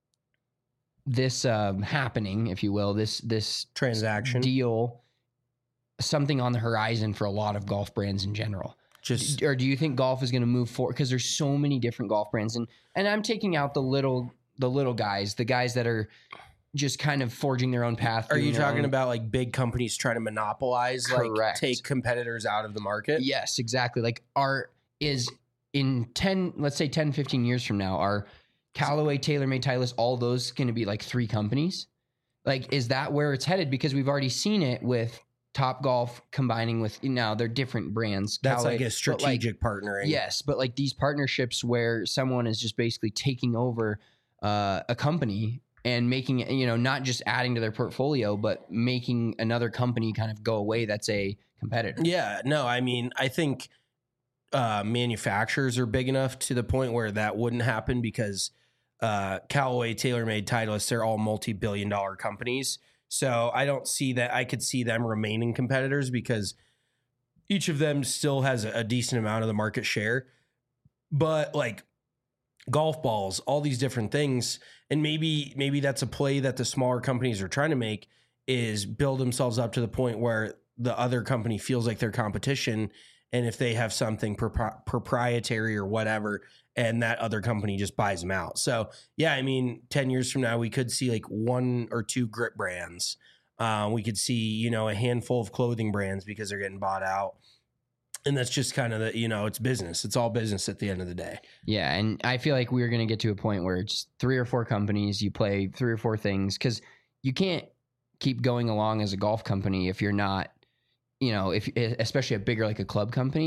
this um, happening, if you will, this this Transaction. deal something on the horizon for a lot of golf brands in general? Just Or do you think golf is going to move forward? Because there's so many different golf brands, and and I'm taking out the little the little guys, the guys that are just kind of forging their own path. Are doing you their talking own- about like big companies trying to monopolize, like Correct. take competitors out of the market? Yes, exactly. Like are is in ten, let's say ten, fifteen years from now, are Callaway, TaylorMade, Titleist, all those going to be like three companies? Like, is that where it's headed? Because we've already seen it with Top Golf combining with, you know, they're different brands. That's Callaway, like a but, strategic partnering. Yes, but like these partnerships where someone is just basically taking over uh, a company and making it, you know, not just adding to their portfolio, but making another company kind of go away that's a competitor. Yeah, no, I mean, I think uh, manufacturers are big enough to the point where that wouldn't happen because uh, Callaway, TaylorMade, Titleist, they're all multi-billion dollar companies. So I don't see that. I could see them remaining competitors because each of them still has a, a decent amount of the market share. But like golf balls, all these different things, and maybe maybe that's a play that the smaller companies are trying to make, is build themselves up to the point where the other company feels like their competition, and if they have something propri- proprietary or whatever, and that other company just buys them out. So yeah, I mean, ten years from now, we could see like one or two grip brands. Uh, we could see, you know, a handful of clothing brands because they're getting bought out. And that's just kind of the, you know, it's business. It's all business at the end of the day. Yeah, and I feel like we're going to get to a point where it's three or four companies, you play three or four things, because you can't keep going along as a golf company if you're not, you know, if especially a bigger like a club company,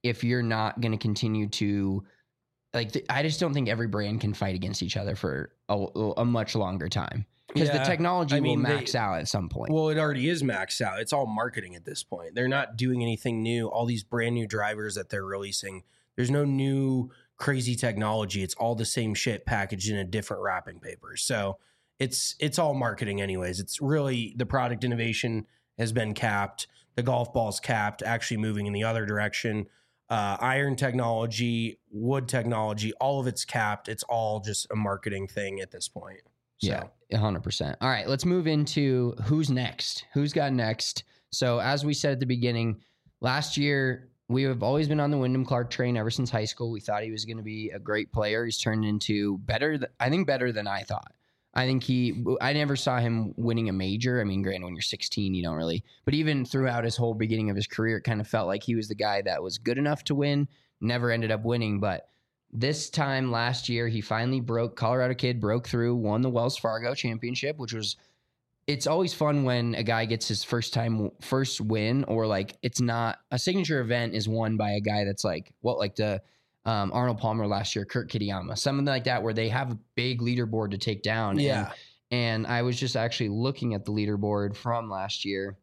if you're not going to continue to like, th- I just don't think every brand can fight against each other for a, a much longer time because Yeah, the technology I mean, will max they- out at some point. Well, it already is maxed out. It's all marketing at this point. They're not doing anything new. All these brand new drivers that they're releasing, there's no new crazy technology. It's all the same shit packaged in a different wrapping paper. So it's it's all marketing anyways. It's really the product innovation has been capped. The golf ball's capped, actually moving in the other direction. Uh, iron technology, wood technology, all of it's capped. It's all just a marketing thing at this point. So. Yeah, one hundred percent. All right, let's move into who's next. Who's got next? So as we said at the beginning, last year, we have always been on the Wyndham Clark train ever since high school. We thought he was going to be a great player. He's turned into better, th- I think better than I thought. I think he, I never saw him winning a major. I mean, granted, when you're sixteen, you don't really, but even throughout his whole beginning of his career, it kind of felt like he was the guy that was good enough to win, never ended up winning. But this time last year, he finally broke, Colorado kid broke through, won the Wells Fargo Championship, which was, it's always fun when a guy gets his first time, first win, or like it's not, a signature event is won by a guy that's like, what, like the, Um, Arnold Palmer last year, Kurt Kitayama, something like that, where they have a big leaderboard to take down. Yeah. And, and I was just actually looking at the leaderboard from last year.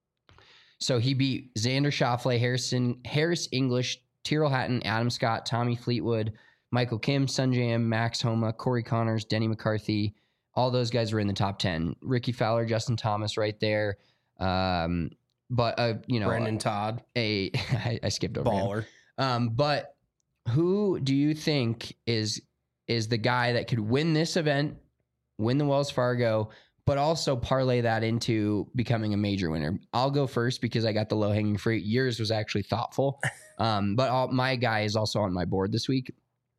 So he beat Xander Schauffele, Harrison, Harris English, Tyrrell Hatton, Adam Scott, Tommy Fleetwood, Michael Kim, Sungjae, Max Homa, Corey Connors, Denny McCarthy. All those guys were in the top ten. Ricky Fowler, Justin Thomas right there. Um, but, uh, you know, Brendan Todd, a I, I skipped over baller. him. Um, but who do you think is is the guy that could win this event, win the Wells Fargo, but also parlay that into becoming a major winner? I'll go first because I got the low hanging fruit. Yours was actually thoughtful, um, but all, my guy is also on my board this week.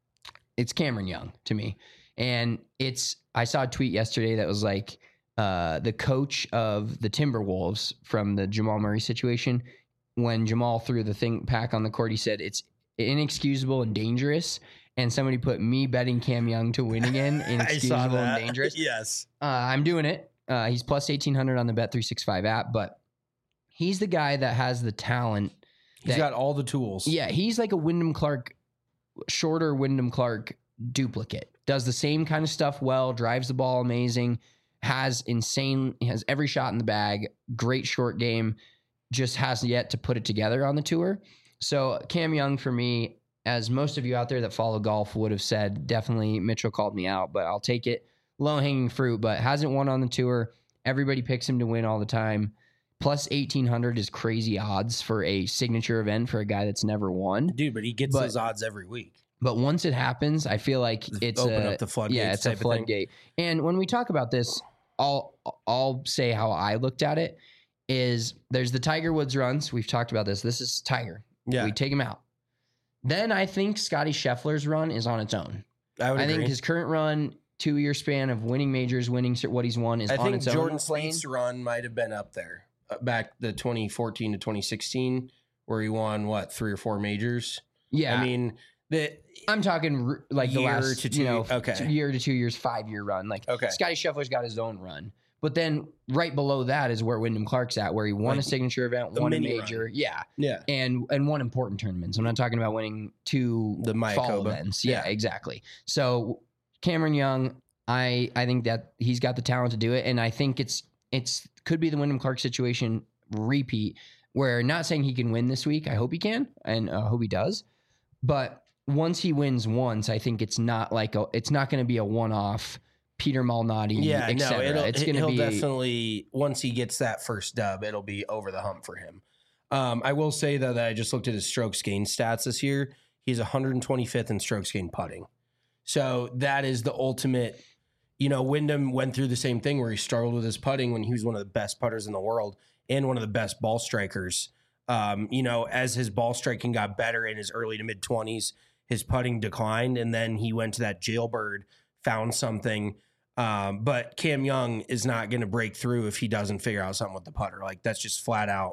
It's Cameron Young to me, and it's I saw a tweet yesterday that was like uh, the coach of the Timberwolves from the Jamal Murray situation. When Jamal threw the thing pack on the court, he said it's inexcusable and dangerous, and somebody put me betting Cam Young to win again. Inexcusable and dangerous. Yes, uh, I'm doing it. Uh, he's plus eighteen hundred on the Bet three sixty-five app, but he's the guy that has the talent. He's that, got all the tools. Yeah, he's like a Wyndham Clark, shorter Wyndham Clark duplicate. Does the same kind of stuff well. Drives the ball amazing. Has insane. Has every shot in the bag. Great short game. Just has yet to put it together on the tour. So Cam Young for me, as most of you out there that follow golf would have said, definitely Mitchell called me out, but I'll take it. Low hanging fruit, but hasn't won on the tour. Everybody picks him to win all the time. Plus eighteen hundred is crazy odds for a signature event for a guy that's never won. Dude, but he gets But- those odds every week. But once it happens, I feel like it's Open a, up the floodgates Yeah, it's a type of thing. floodgate. And when we talk about this, I'll I'll say how I looked at it. Is there's the Tiger Woods runs. We've talked about this. This is Tiger. Yeah. We take him out. Then I think Scotty Scheffler's run is on its own. I would I agree. think his current run, two year span of winning majors, winning what he's won, is I on think its Jordan own. Spieth's run might have been up there uh, back the twenty fourteen to twenty sixteen, where he won what three or four majors. Yeah, I mean, the I'm talking r- like the Year last to two- you know, okay. two year to two years, five year run. Like Okay. Scotty Scheffler's got his own run, but then right below that is where Wyndham Clark's at, where he won Like a signature event, a won a mini major, run. yeah, yeah, and and won important tournaments. I'm not talking about winning two The fall Mayakoba. events. Yeah, Yeah. exactly. So Cameron Young, I I think that he's got the talent to do it, and I think it's it's could be the Wyndham Clark situation repeat. Where not saying he can win this week. I hope he can, and I hope he does. But once he wins once, I think it's not like a, it's not going to be a one-off Peter Malnati. yeah. et No, cetera. it'll, it's going to he'll be definitely once he gets that first dub, it'll be over the hump for him. Um, I will say though that I just looked at his strokes gained stats this year. He's one hundred twenty-fifth in strokes gained putting. So that is the ultimate. You know, Wyndham went through the same thing where he struggled with his putting when he was one of the best putters in the world and one of the best ball strikers. Um, you know, as his ball striking got better in his early to mid twenties, his putting declined, and then he went to that jailbird, found something. Um, but Cam Young is not going to break through if he doesn't figure out something with the putter. Like that's just flat out.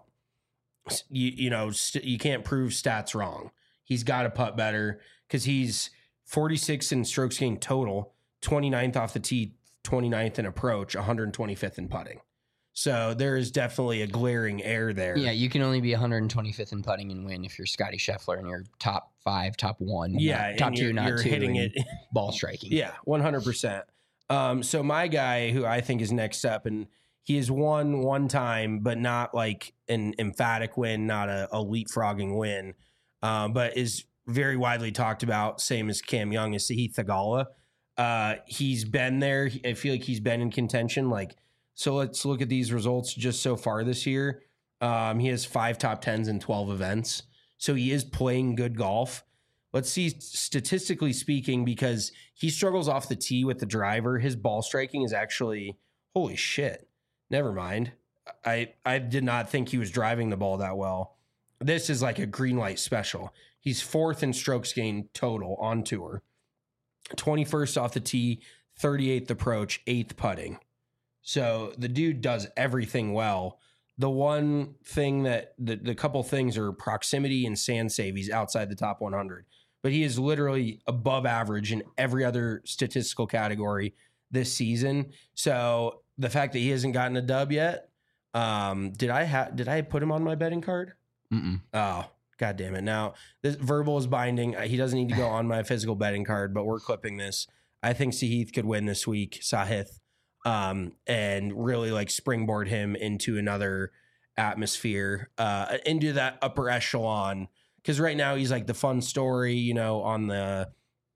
You, you know, st- you can't prove stats wrong. He's got to putt better because he's forty-six in strokes gained total, twenty-ninth off the tee, twenty-ninth in approach, one hundred twenty-fifth in putting. So there is definitely a glaring error there. Yeah, you can only be one hundred twenty-fifth in putting and win if you're Scotty Scheffler and you're top five, top one, Yeah, not, top and two, you're, not you're two, hitting it. ball striking. Yeah, one hundred percent. Um, so my guy, who I think is next up, and he has won one time, but not like an emphatic win, not a, a leapfrogging win, um, but is very widely talked about, same as Cam Young, is Sahith Theegala. Uh, he's been there. I feel like he's been in contention. Like, so let's look at these results just so far this year. Um, he has five top tens in twelve events. So he is playing good golf. Let's see, statistically speaking, because he struggles off the tee with the driver, his ball striking is actually, holy shit. Never mind. I, I did not think he was driving the ball that well. This is like a green light special. He's fourth in strokes gained total on tour. twenty-first off the tee, thirty-eighth approach, eighth putting. So the dude does everything well. The one thing that the, the couple things are proximity and sand save. He's outside the top one hundred, but he is literally above average in every other statistical category this season. So the fact that he hasn't gotten a dub yet, um, did I have did I put him on my betting card? Mm-mm. Oh, God damn it. Now, this verbal is binding. He doesn't need to go on my physical betting card, but we're clipping this. I think Sahith could win this week, Sahith, um, and really like springboard him into another atmosphere, uh, into that upper echelon. Because right now he's like the fun story, you know, on the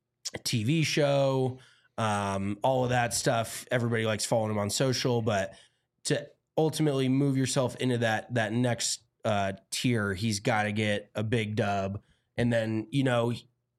T V show, um, all of that stuff. Everybody likes following him on social, but to ultimately move yourself into that that next uh tier, he's got to get a big dub and then, you know,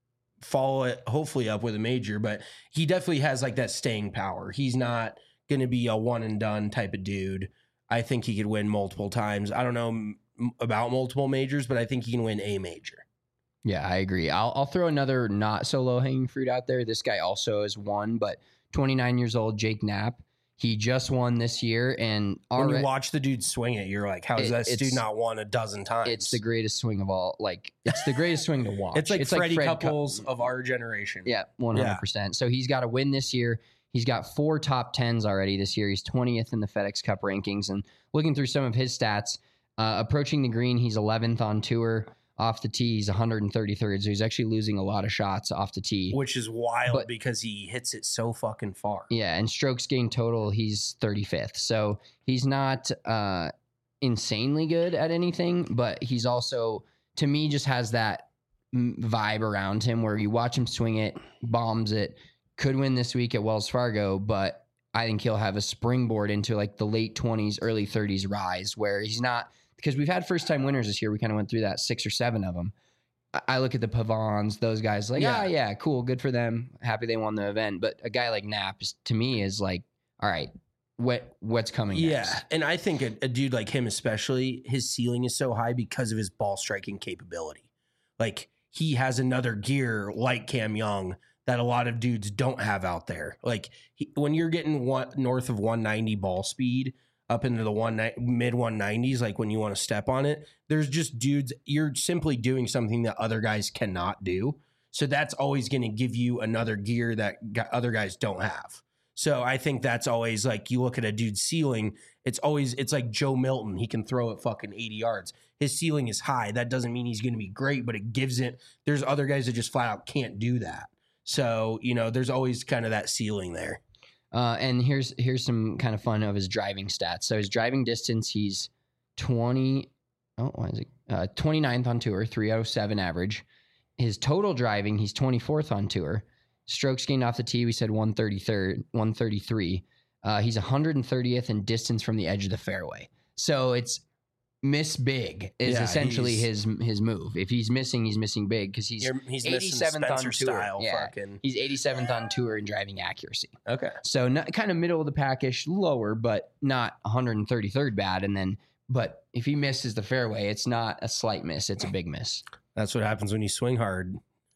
follow it hopefully up with a major. But he definitely has like that staying power. He's not going to be a one and done type of dude. I think he could win multiple times. I don't know m- about multiple majors, but I think he can win a major. Yeah, I agree. I'll, I'll throw another not so low hanging fruit out there. This guy also has won, but twenty-nine years old, Jake Knapp. He just won this year, and when already, you watch the dude swing it, you're like, how has It- that dude it's- not won a dozen times? it's the greatest swing of all. Like, it's the greatest swing to watch. It's like Freddie Fred Couples Cou- of our generation. Yeah, one hundred percent. So he's got to win this year. He's got four top tens already this year. He's twentieth in the FedEx Cup rankings. And looking through some of his stats, uh, approaching the green, he's eleventh on tour. Off the tee, he's one hundred thirty-third. So he's actually losing a lot of shots off the tee. Which is wild But- because he hits it so fucking far. Yeah, and strokes gained total, he's thirty-fifth. So he's not uh, insanely good at anything, but he's also, to me, just has that mm, vibe around him where you watch him swing it, bombs it, could win this week at Wells Fargo, but I think he'll have a springboard into like the late twenties, early thirties rise where he's not, because we've had first time winners this year. We kind of went through that, six or seven of them. I- I look at the Pavons, those guys like, Yeah. ah, yeah, cool, good for them. Happy they won the event. But a guy like Knapp is, to me, is like, all right, what what's coming Yeah, next? and I think a, a dude like him especially, his ceiling is so high because of his ball striking capability. Like, he has another gear like Cam Young that a lot of dudes don't have out there. Like, he, when you're getting one, north of one ninety ball speed up into the one mid one nineties, like when you want to step on it, there's just dudes, you're simply doing something that other guys cannot do. So that's always going to give you another gear that gu- other guys don't have. So I think that's always like, you look at a dude's ceiling, it's always, it's like Joe Milton. He can throw it fucking eighty yards. His ceiling is high. That doesn't mean he's going to be great, but it gives it, there's other guys that just flat out can't do that. So, you know, there's always kind of that ceiling there. Uh, and here's here's some kind of fun of his driving stats. So his driving distance, he's twenty. Oh, why is it? Uh, twenty-ninth on tour, three oh seven average. His total driving, he's twenty-fourth on tour. Strokes gained off the tee, we said one thirty-third, one thirty-three. Uh, he's one hundred thirtieth in distance from the edge of the fairway. So it's miss big is Yeah, essentially he's- his his move. If he's missing, he's missing big because he's, You're- he's missing eighty-seventh on Spencer tour. style Yeah, fucking- he's eighty-seventh on tour in driving accuracy. Okay. So not, kind of middle of the packish, lower, but not one hundred thirty-third bad. And then, but if he misses the fairway, it's not a slight miss; it's a big miss. That's what happens when you swing hard.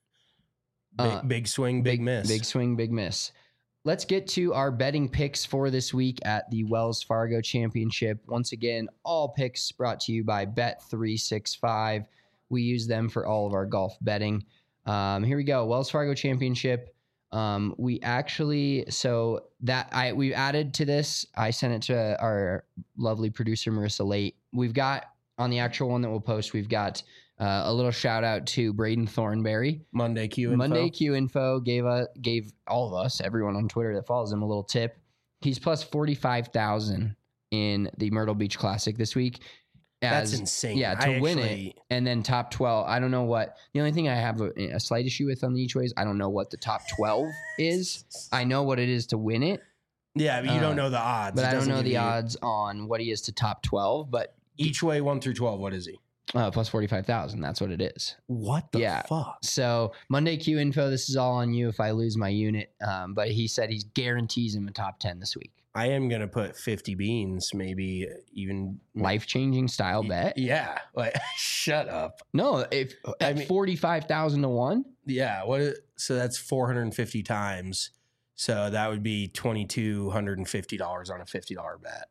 Big, Uh, big swing, big, miss. Big swing, big miss. Let's get to our betting picks for this week at the Wells Fargo Championship. Once again, all picks brought to you by Bet three sixty-five. We use them for all of our golf betting. Um, here we go. Wells Fargo Championship. Um, we actually, so that I, we added to this, I sent it to our lovely producer, Marissa Late. We've got on the actual one that we'll post, we've got uh, a little shout out to Braden Thornberry. Monday Q info. Monday Q info gave a, gave all of us, everyone on Twitter that follows him, a little tip. He's plus forty-five thousand in the Myrtle Beach Classic this week. As, That's insane. Yeah, to I win actually, it. And then top twelve. I don't know what. The only thing I have a, a slight issue with on the each ways, I don't know what the top twelve is. I know what it is to win it. Yeah, but you uh, don't know the odds. But It I don't doesn't know give the you- odds on what he is to top twelve. But Each way one through twelve, what is he? uh, plus forty-five thousand. That's what it is. What the Yeah. fuck? So Monday Q info, this is all on you if I lose my unit. Um, but he said he guarantees him a top ten this week. I am gonna put fifty beans, maybe even Life changing style bet. Yeah, like shut up. No, if I at mean- forty-five thousand to one. Yeah, what? So that's four hundred and fifty times. So that would be twenty two hundred and fifty dollars on a fifty dollar bet.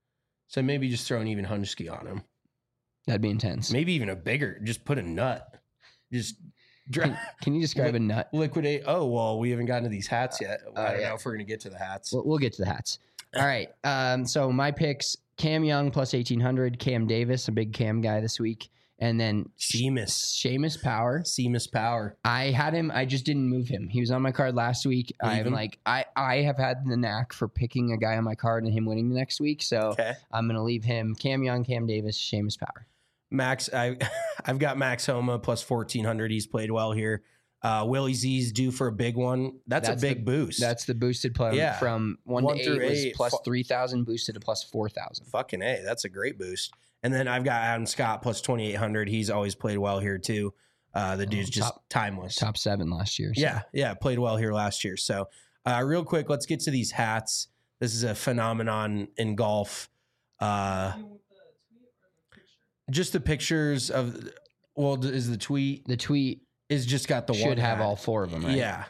So maybe just throw an even hunchski on him. That'd be intense. Maybe even a bigger. Just put a nut. Just dra- Can, can you describe Li- a nut? liquidate. Oh well, we haven't gotten to these hats yet. I don't yeah. know if we're gonna get to the hats. We'll, we'll get to the hats. All right. Um, so my picks: Cam Young plus eighteen hundred, Cam Davis, a big Cam guy this week, and then Seamus, Seamus Power. Seamus Power. I had him. I just didn't move him. He was on my card last week. Leave I'm him? like, I, I have had the knack for picking a guy on my card and him winning the next week. So Okay. I'm going to leave him. Cam Young, Cam Davis, Seamus Power. Max, I, I've got Max Homa plus fourteen hundred. He's played well here. Uh, Willie Z's due for a big one. That's, a big the, boost. That's the boosted play Yeah. from one, One to through eight was eight. plus Fu- three thousand, boosted to plus four thousand. fucking A. That's a great boost. And then I've got Adam Scott plus twenty-eight hundred. He's always played well here too. Uh, the dude's just top- timeless. Top seven last year. So. Yeah, yeah, played well here last year. So, uh, real quick, let's get to these hats. This is a phenomenon in golf. Uh, just the pictures of, well, is the tweet The tweet is just got the one should have hat. all four of them, right? Yeah.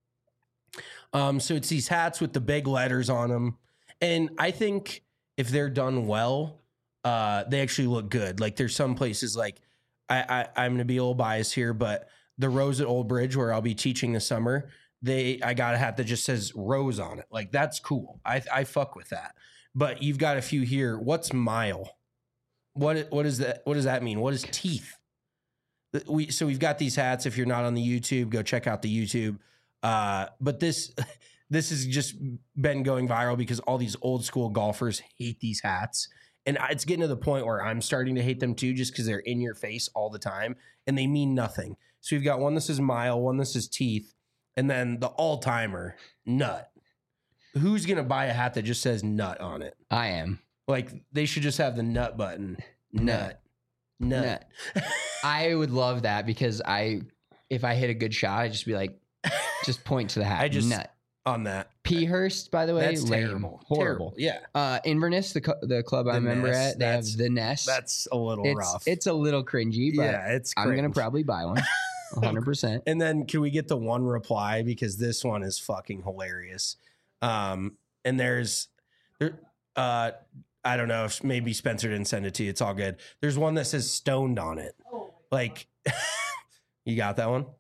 Um, so it's these hats with the big letters on them. And I think if they're done well, uh, they actually look good. Like there's some places like I, I I'm gonna be a little biased here, but the Rose at Old Bridge where I'll be teaching this summer, they I got a hat that just says Rose on it. Like that's cool. I I fuck with that. But you've got a few here. What's mile? What what is that? What does that mean? What is teeth? We so we've got these hats. If you're not on the YouTube, go check out the YouTube. Uh, but this this has just been going viral because all these old school golfers hate these hats, and it's getting to the point where I'm starting to hate them too, just because they're in your face all the time and they mean nothing. So we've got one that says mile, one that says teeth, and then the all timer nut. Who's gonna buy a hat that just says nut on it? I am. Like they should just have the nut button. Nut. Nut. I would love that because I, if I hit a good shot, I'd just be like, just point to the hat. I just Nut. on that. P Hurst, by the way, That's lame. terrible. Horrible. Terrible. Yeah. Uh, Inverness, the co- the club I The remember Nest, at, they have that's- the Nest. That's a little it's, rough. It's a little cringy, but yeah, it's I'm gonna cringe. probably buy one. one hundred percent. And then can we get the one reply because this one is fucking hilarious. Um, and there's there uh I don't know if maybe Spencer didn't send it to you. It's all good. There's one that says stoned on it. Like you got that one?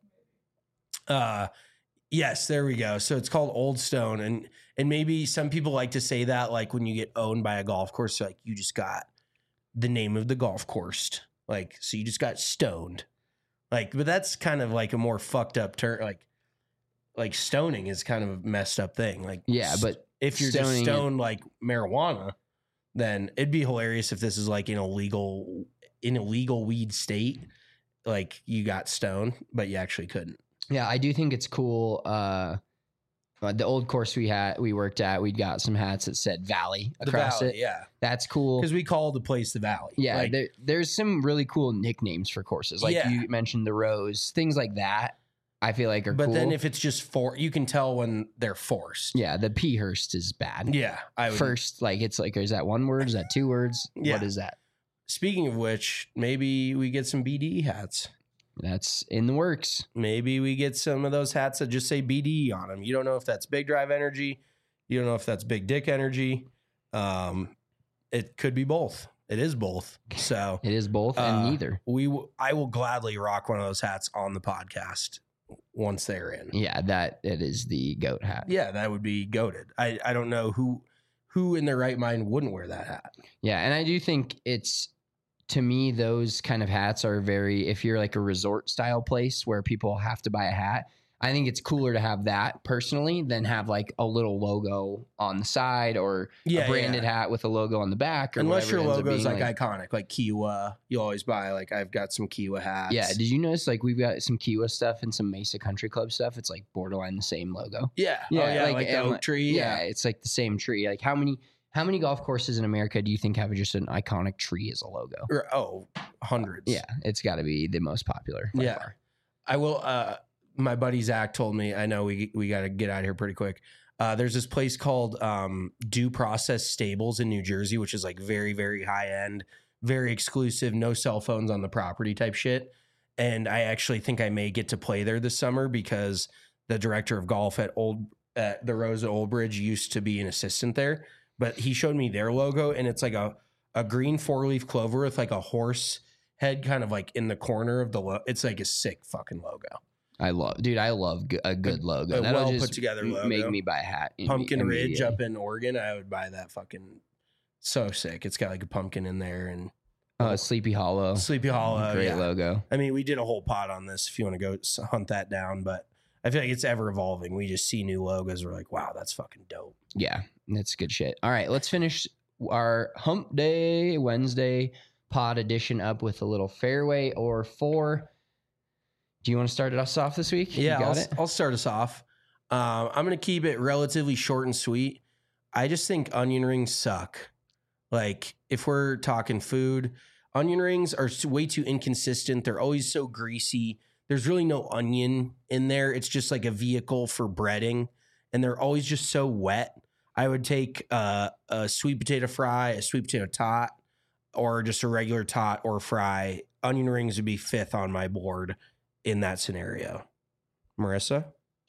Uh yes, there we go. So it's called Old Stone. And and maybe some people like to say that like when you get owned by a golf course, like you just got the name of the golf course. Like, so you just got stoned. Like, but that's kind of like a more fucked up term. Like, like stoning is kind of a messed up thing. Like, Yeah, but if you're just stoning it- stoned like marijuana, then it'd be hilarious if this is like an illegal, in a legal weed state. Like you got stoned, but you actually couldn't. Yeah, I do think it's cool. Uh, uh, the old course we had, we worked at, we got some hats that said Valley The across Valley, it. yeah, That's cool. because we call the place the Valley. Yeah, Like, there, there's some really cool nicknames for courses. Like Yeah. you mentioned the Rose, things like that. I feel like are but cool. then if it's just for, you can tell when they're forced. yeah, the P Hurst is bad. Yeah, I would. First, like it's like, is that one word? Is that two words? Yeah. What is that? Speaking of which, maybe we get some B D E hats. That's in the works. Maybe we get some of those hats that just say B D E on them. You don't know if that's Big Drive Energy. You don't know if that's Big Dick Energy. Um, it could be both. It is both. So It is both and uh, neither. We, w- I will gladly rock one of those hats on the podcast. once they're in. Yeah, that it is the goat hat. Yeah, that would be goated. I, I don't know who who in their right mind wouldn't wear that hat. Yeah, and I do think it's, to me, those kind of hats are very, if you're like a resort style place where people have to buy a hat, I think it's cooler to have that personally than have like a little logo on the side or Yeah, a branded yeah. hat with a logo on the back. Or Unless whatever your it ends up logo is being, like, iconic, like Kiowa. You always buy, like, I've got some Kiowa hats. Yeah, did you notice like we've got some Kiowa stuff and some Mesa Country Club stuff? It's like borderline the same logo. Yeah. Yeah, oh, yeah like, like the and, oak tree. Yeah, Yeah. it's like the same tree. Like how many how many golf courses in America do you think have just an iconic tree as a logo? Or, oh, hundreds. Yeah, it's got to be the most popular. by Yeah. far. I will. Uh, my buddy Zach told me, I know we we got to get out of here pretty quick. Uh, there's this place called um, Due Process Stables in New Jersey, which is like very, very high end, very exclusive, no cell phones on the property type shit. And I actually think I may get to play there this summer because the director of golf at Old at the Rose at Old Bridge used to be an assistant there. But he showed me their logo, and it's like a a green four leaf clover with like a horse head kind of like in the corner of the lo- it's like a sick fucking logo. I love, dude. I love g- a good logo. a That'll well just put together logo. make me buy a hat. imme- Pumpkin Ridge immediately. up in Oregon, I would buy that fucking so sick. It's got like a pumpkin in there and Uh, Sleepy Hollow. Sleepy Hollow. Great yeah. logo. I mean, we did a whole pod on this if you want to go s- hunt that down, but I feel like it's ever evolving. We just see new logos. We're like, wow, that's fucking dope. Yeah, that's good shit. All right, let's finish our Hump Day Wednesday pod edition up with a little fairway or four. Do you want to start us off this week? Yeah, you got I'll, it. I'll start us off. Um, I'm going to keep it relatively short and sweet. I just think onion rings suck. Like, if we're talking food, onion rings are s- way too inconsistent. They're always so greasy. There's really no onion in there. It's just like a vehicle for breading, and they're always just so wet. I would take uh, a sweet potato fry, a sweet potato tot, or just a regular tot or fry. Onion rings would be fifth on my board in that scenario. Marissa?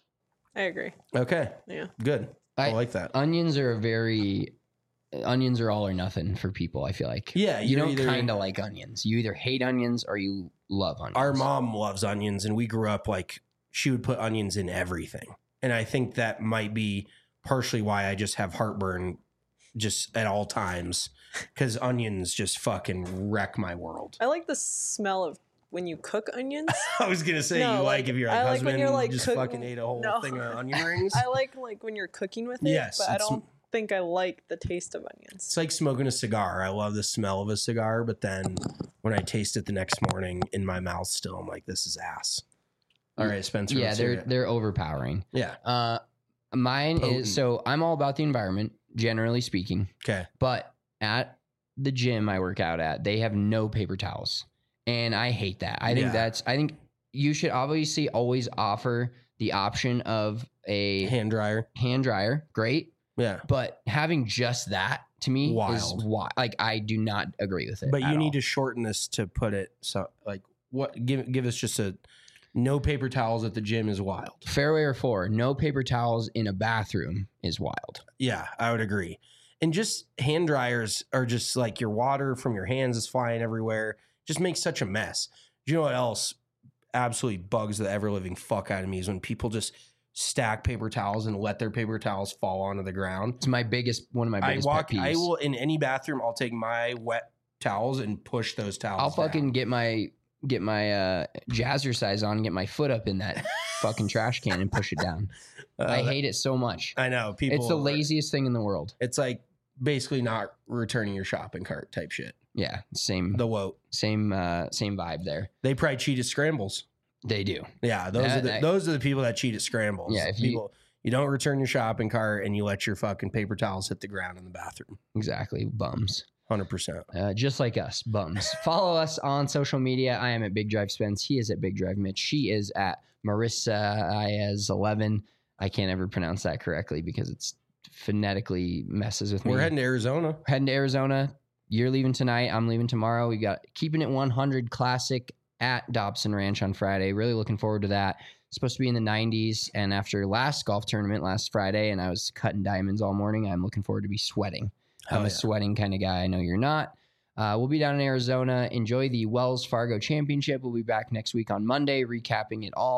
I agree. Okay, Yeah. good. I, I- like that. Onions are a very onions are all or nothing for people. I feel like. Yeah, you you're don't either- kind of like onions. You either hate onions or you love onions. Our mom loves onions, and we grew up like she would put onions in everything. And I think that might be partially why I just have heartburn just at all times because onions just fucking wreck my world. I like the smell of when you cook onions. I was gonna say No, you like, like, if you're like I like husband when you're, like, just cook- fucking ate a whole No. thing of onion rings. I like like when you're cooking with it, Yes, but I it's- don't think I like the taste of onions. It's like smoking a cigar. I love the smell of a cigar, but then when I taste it the next morning in my mouth, still I'm like, this is ass. All right, Spencer. Yeah, let's hear they're it. they're overpowering. yeah. Uh, mine Potent. is so I'm all about the environment, generally speaking. Okay. But at the gym I work out at, they have no paper towels. And I hate that. I think Yeah. that's, I think you should obviously always offer the option of a Hand dryer. hand dryer. Great. Yeah. But having just that to me Wild. is wild. Like, I do not agree with it. But at you need all. to shorten this to put it so like what give give us just a no paper towels at the gym is wild. Fairway or four, no paper towels in a bathroom is wild. Yeah, I would agree. And just hand dryers are just like your water from your hands is flying everywhere. Just makes such a mess. Do you know what else absolutely bugs the ever living fuck out of me is when people just stack paper towels and let their paper towels fall onto the ground. It's my biggest, one of my I biggest walk pet peeves. I will in any bathroom, I'll take my wet towels and push those towels. I'll fucking down. get my get my uh, jazzercise on, and get my foot up in that fucking trash can and push it down. Uh, I hate it so much. I know people. It's the laziest thing in the world. It's like basically not returning your shopping cart type shit. Yeah, same The woke. same uh, same vibe there. They probably cheat at scrambles. They do. Yeah, those That- are the that- those are the people that cheat at scrambles. Yeah, if you- people you don't return your shopping cart and you let your fucking paper towels hit the ground in the bathroom. Exactly, bums. Hundred percent. Uh, just like us, bums. Follow us on social media. I am at Big Drive Spence. He is at Big Drive Mitch. She is at Marissa Iez eleven. I can't ever pronounce that correctly because it's phonetically messes with me. We're heading to Arizona. heading to Arizona. You're leaving tonight. I'm leaving tomorrow. We got Keeping It one hundred Classic at Dobson Ranch on Friday. Really looking forward to that. It's supposed to be in the nineties. And after last golf tournament last Friday, and I was cutting diamonds all morning, I'm looking forward to be sweating. Hell I'm a yeah. sweating kind of guy. I know you're not. Uh, we'll be down in Arizona. Enjoy the Wells Fargo Championship. We'll be back next week on Monday, recapping it all.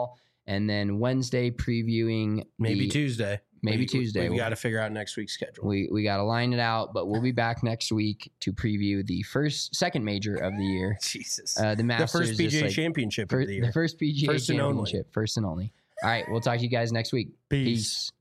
and then Wednesday previewing Maybe the, Tuesday. Maybe we, Tuesday. We, we We'll- got to figure out next week's schedule. We we got to line it out, but we'll be back next week to preview the first second major of the year. Jesus. Uh, the The Masters, first P G A just like- championship fir- of the year. the first P G A First and only. championship, first and only. All right, we'll talk to you guys next week. Peace. Peace.